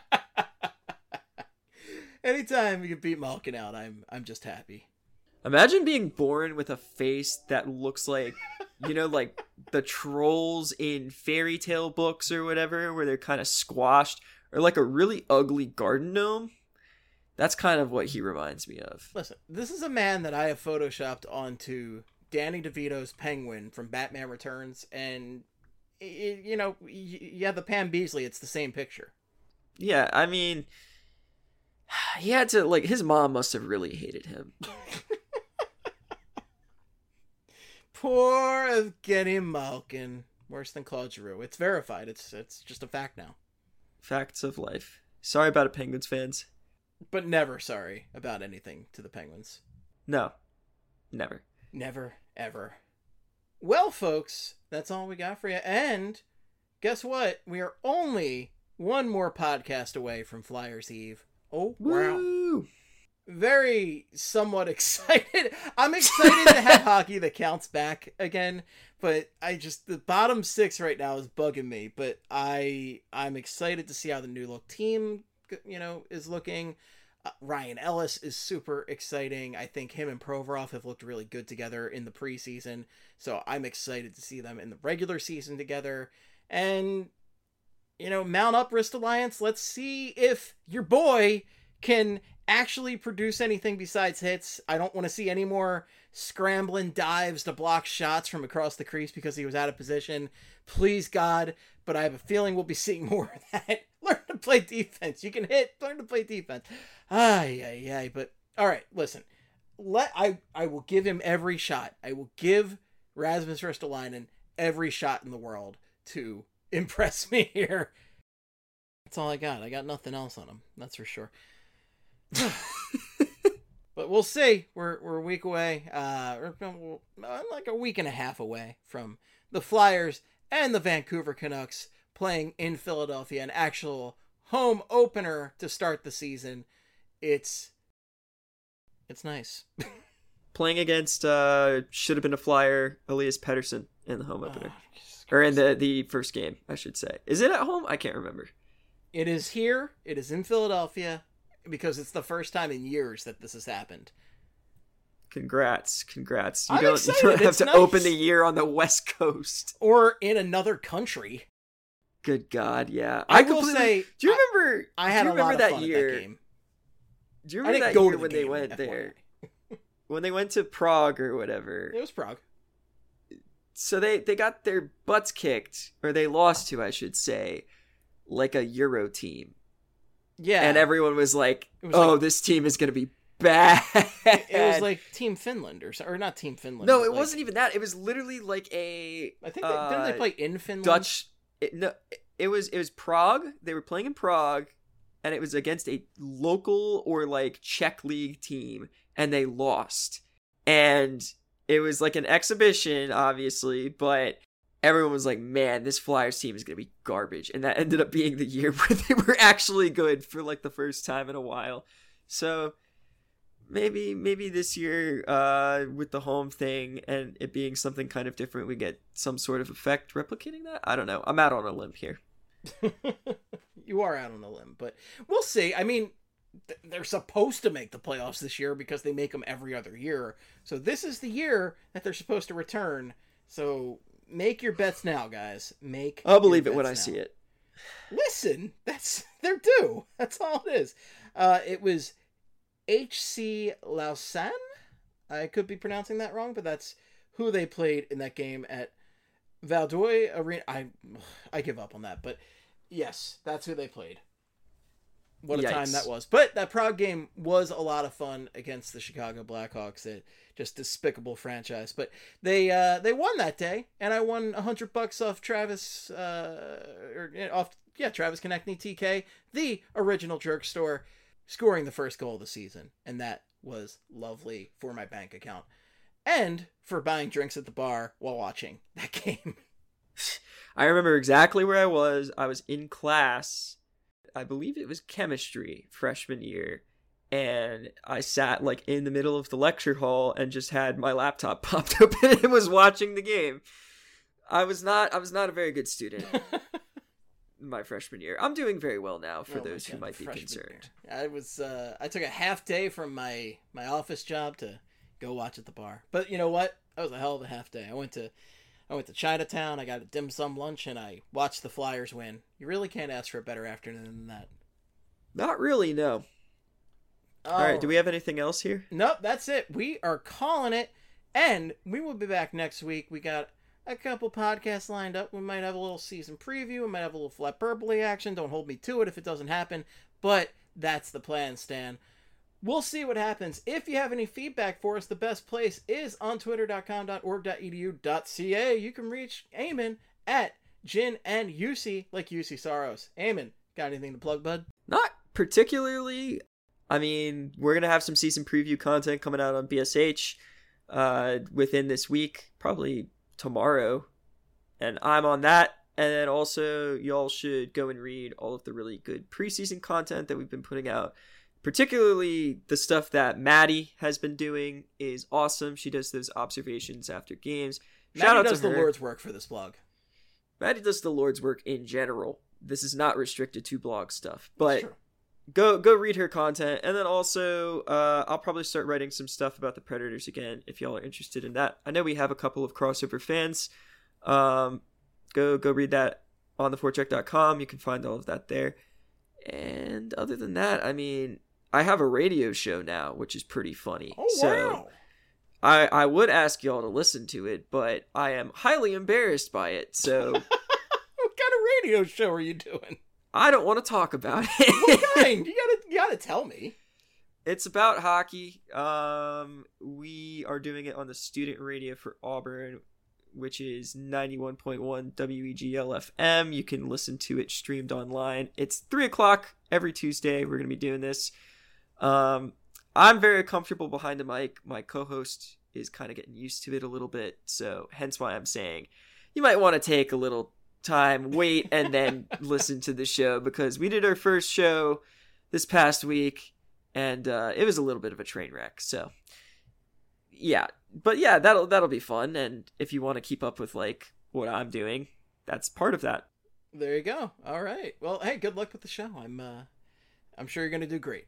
D: Anytime you can beat Malkin out, I'm I'm just happy.
E: Imagine being born with a face that looks like, you know, like the trolls in fairy tale books or whatever, where they're kind of squashed, or like a really ugly garden gnome. That's kind of what he reminds me of.
D: Listen, this is a man that I have photoshopped onto Danny DeVito's Penguin from Batman Returns, and, it, you know, you have the Pam Beesly, it's the same picture.
E: Yeah, I mean, he had to, like, his mom must have really hated him.
D: Poor Evgeny Malkin. Worse than Claude Giroux. It's verified. It's it's just a fact now.
E: Facts of life. Sorry about it, Penguins fans.
D: But never sorry about anything to the Penguins.
E: No. Never.
D: Never, ever. Well, folks, that's all we got for you. And guess what? We are only one more podcast away from Flyers Eve. Oh, wow.
E: Woo!
D: Very somewhat excited. I'm excited to have hockey that counts back again, but I just, the bottom six right now is bugging me, but I, I'm excited to see how the new look team, you know, is looking. Uh, Ryan Ellis is super exciting. I think him and Provorov have looked really good together in the preseason, so I'm excited to see them in the regular season together. And, you know, mount up Wrist Alliance. Let's see if your boy can actually produce anything besides hits. I don't want to see any more scrambling dives to block shots from across the crease because he was out of position. Please, God. But I have a feeling we'll be seeing more of that. Learn to play defense. You can hit. Learn to play defense. Ay, ay, ay. But, all right, listen. Let I, I will give him every shot. I will give Rasmus Ristolainen every shot in the world to impress me here. That's all I got. I got nothing else on him. That's for sure. But we'll see. We're we're a week away, uh, or like a week and a half away from the Flyers and the Vancouver Canucks playing in Philadelphia, an actual home opener to start the season. It's it's nice.
E: Playing against uh, should have been a Flyer, Elias Pettersson in the home opener,
D: oh,
E: or in the the first game, I should say. Is it at home? I can't remember.
D: It is here. It is in Philadelphia. Because it's the first time in years that this has happened.
E: Congrats, congrats. You
D: I'm
E: don't,
D: excited.
E: you don't have
D: It's
E: to
D: nice.
E: open the year on the West Coast.
D: Or in another country.
E: Good God, yeah.
D: I,
E: I
D: will
E: completely,
D: say...
E: Do you remember...
D: I, I had
E: do you
D: a
E: remember
D: lot of
E: that
D: fun
E: year,
D: at that game.
E: Do you
D: I
E: remember
D: didn't
E: that
D: go
E: year
D: to the
E: when
D: game,
E: they went
D: F Y I.
E: there? When they went to Prague or whatever.
D: It was Prague.
E: So they, they got their butts kicked, or they lost to, I should say, like a Euro team.
D: Yeah.
E: And everyone was like,
D: was
E: oh,
D: like,
E: this team is going to be bad.
D: It was like Team Finland, or or not Team Finland.
E: No, it
D: like,
E: wasn't even that. It was literally like a...
D: I think, they,
E: uh,
D: didn't they play in Finland?
E: Dutch... It, no, it was, it was Prague. They were playing in Prague, and it was against a local or like Czech league team, and they lost. And it was like an exhibition, obviously, but... Everyone was like, man, this Flyers team is going to be garbage. And that ended up being the year where they were actually good for like the first time in a while. So maybe maybe this year uh, with the home thing and it being something kind of different, we get some sort of effect replicating that. I don't know. I'm out on a limb here.
D: You are out on a limb, but we'll see. I mean, th- they're supposed to make the playoffs this year because they make them every other year. So this is the year that they're supposed to return. So... Make your bets now, guys. Make.
E: I'll believe it when
D: now.
E: I see it.
D: Listen, that's they're due. That's all it is. Uh, it was H C Lausanne. I could be pronouncing that wrong, but that's who they played in that game at Valdoi Arena. I I give up on that, but yes, that's who they played. What a
E: Yikes.
D: time that was. But that Prague game was a lot of fun against the Chicago Blackhawks, a just despicable franchise. But they uh, they won that day, and I won a hundred bucks off Travis, uh, or off yeah Travis Konechny T K, the original Jerk Store, scoring the first goal of the season, and that was lovely for my bank account, and for buying drinks at the bar while watching that game.
E: I remember exactly where I was. I was in class. I believe it was chemistry freshman year, and I sat like in the middle of the lecture hall and just had my laptop popped open and was watching the game. I was not I was not a very good student my freshman year. I'm doing very well now for
D: Oh my
E: those who
D: God,
E: might be
D: freshman
E: concerned.
D: year. I was uh, I took a half day from my my office job to go watch at the bar. But you know what? That was a hell of a half day. I went to I went to Chinatown, I got a dim sum lunch, and I watched the Flyers win. You really can't ask for a better afternoon than that.
E: Not really, no. All right, do we have anything else here?
D: Nope, that's it. We are calling it, and we will be back next week. We got a couple podcasts lined up. We might have a little season preview. We might have a little Flatperbole action. Don't hold me to it if it doesn't happen, but that's the plan, Stan. We'll see what happens. If you have any feedback for us, the best place is on twitter dot com dot org dot e d u dot c a. You can reach Eamon at Jin and Yusi, like Yusi Saros. Eamon, got anything to plug, bud?
E: Not particularly. I mean, we're going to have some season preview content coming out on B S H uh, within this week, probably tomorrow. And I'm on that. And then also, y'all should go and read all of the really good preseason content that we've been putting out. Particularly the stuff that Maddie has been doing is awesome. She does those observations after games. Shout
D: Maddie
E: out
D: does
E: to her.
D: the Lord's work for this blog.
E: Maddie does the Lord's work in general. This is not restricted to blog stuff. But go go read her content. And then also, uh, I'll probably start writing some stuff about the Predators again if y'all are interested in that. I know we have a couple of crossover fans. Um, go, go read that on the forecheck dot com. You can find all of that there. And other than that, I mean, I have a radio show now, which is pretty funny.
D: Oh,
E: so
D: wow.
E: I, I would ask y'all to listen to it, but I am highly embarrassed by it, so...
D: What kind of radio show are you doing?
E: I don't want to talk about it.
D: What kind? You gotta, you gotta tell me.
E: It's about hockey. Um, we are doing it on the student radio for Auburn, which is ninety-one point one W E G L F M. You can listen to it streamed online. It's three o'clock every Tuesday. We're going to be doing this. Um, I'm very comfortable behind the mic. My co-host is kind of getting used to it a little bit, so hence why I'm saying you might want to take a little time, wait, and then listen to the show, because we did our first show this past week, and uh, it was a little bit of a train wreck. So, yeah, but yeah, that'll that'll be fun. And if you want to keep up with like what I'm doing, that's part of that.
D: There you go. All right. Well, hey, good luck with the show. I'm uh, I'm sure you're gonna do great.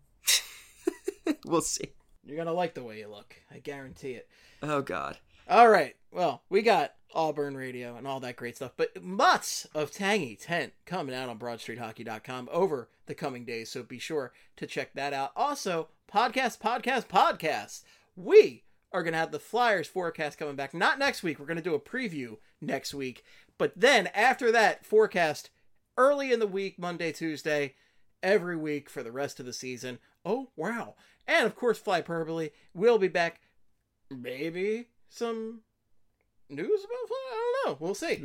E: We'll see.
D: You're gonna like the way you look. I guarantee it.
E: Oh God.
D: All right. Well, we got Auburn Radio and all that great stuff, but lots of Tangy Tent coming out on broad street hockey dot com over the coming days, so be sure to check that out. Also, podcast, podcast, podcast. We are going to have the Flyers forecast coming back. Not next week. We're going to do a preview next week. But then after that forecast, early in the week, Monday, Tuesday, every week for the rest of the season. Oh, wow. And, of course, Flyperbole will be back. Maybe some news about Fly? I don't know. We'll see.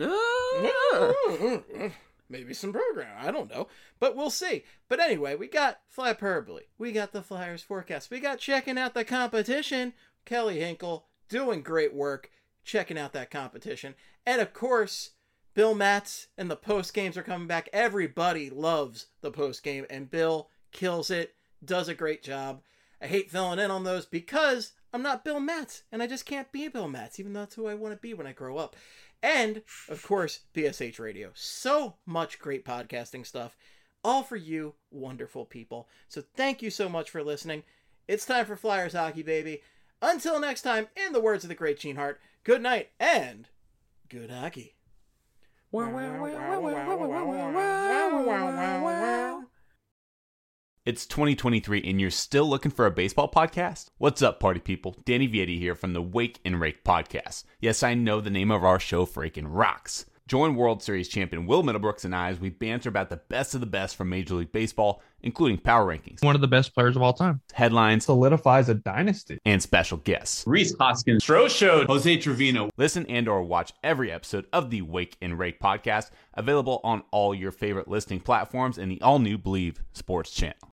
E: No.
D: Maybe some program. I don't know. But we'll see. But anyway, we got Flyperbole. We got the Flyers forecast. We got checking out the competition. Kelly Hinkle doing great work checking out that competition. And, of course, Bill Matz and the post games are coming back. Everybody loves the post game, and Bill kills it, does a great job. I hate filling in on those because I'm not Bill Matz, and I just can't be Bill Matz, even though that's who I want to be when I grow up. And, of course, B S H Radio. So much great podcasting stuff, all for you wonderful people. So thank you so much for listening. It's time for Flyers hockey, baby. Until next time, in the words of the great Gene Hart, good night and good hockey.
J: It's twenty twenty-three and you're still looking for a baseball podcast? What's up, party people? Danny Vietti here from the Wake and Rake podcast. Yes, I know the name of our show freaking rocks. Join World Series champion Will Middlebrooks and I as we banter about the best of the best from Major League Baseball, including power rankings,
K: one of the best players of all time,
J: headlines,
K: solidifies a dynasty,
J: and special guests.
L: Rhys Hoskins, Stro Show, Jose Trevino.
J: Listen and or watch every episode of the Wake and Rake podcast, available on all your favorite listening platforms and the all-new Believe Sports channel.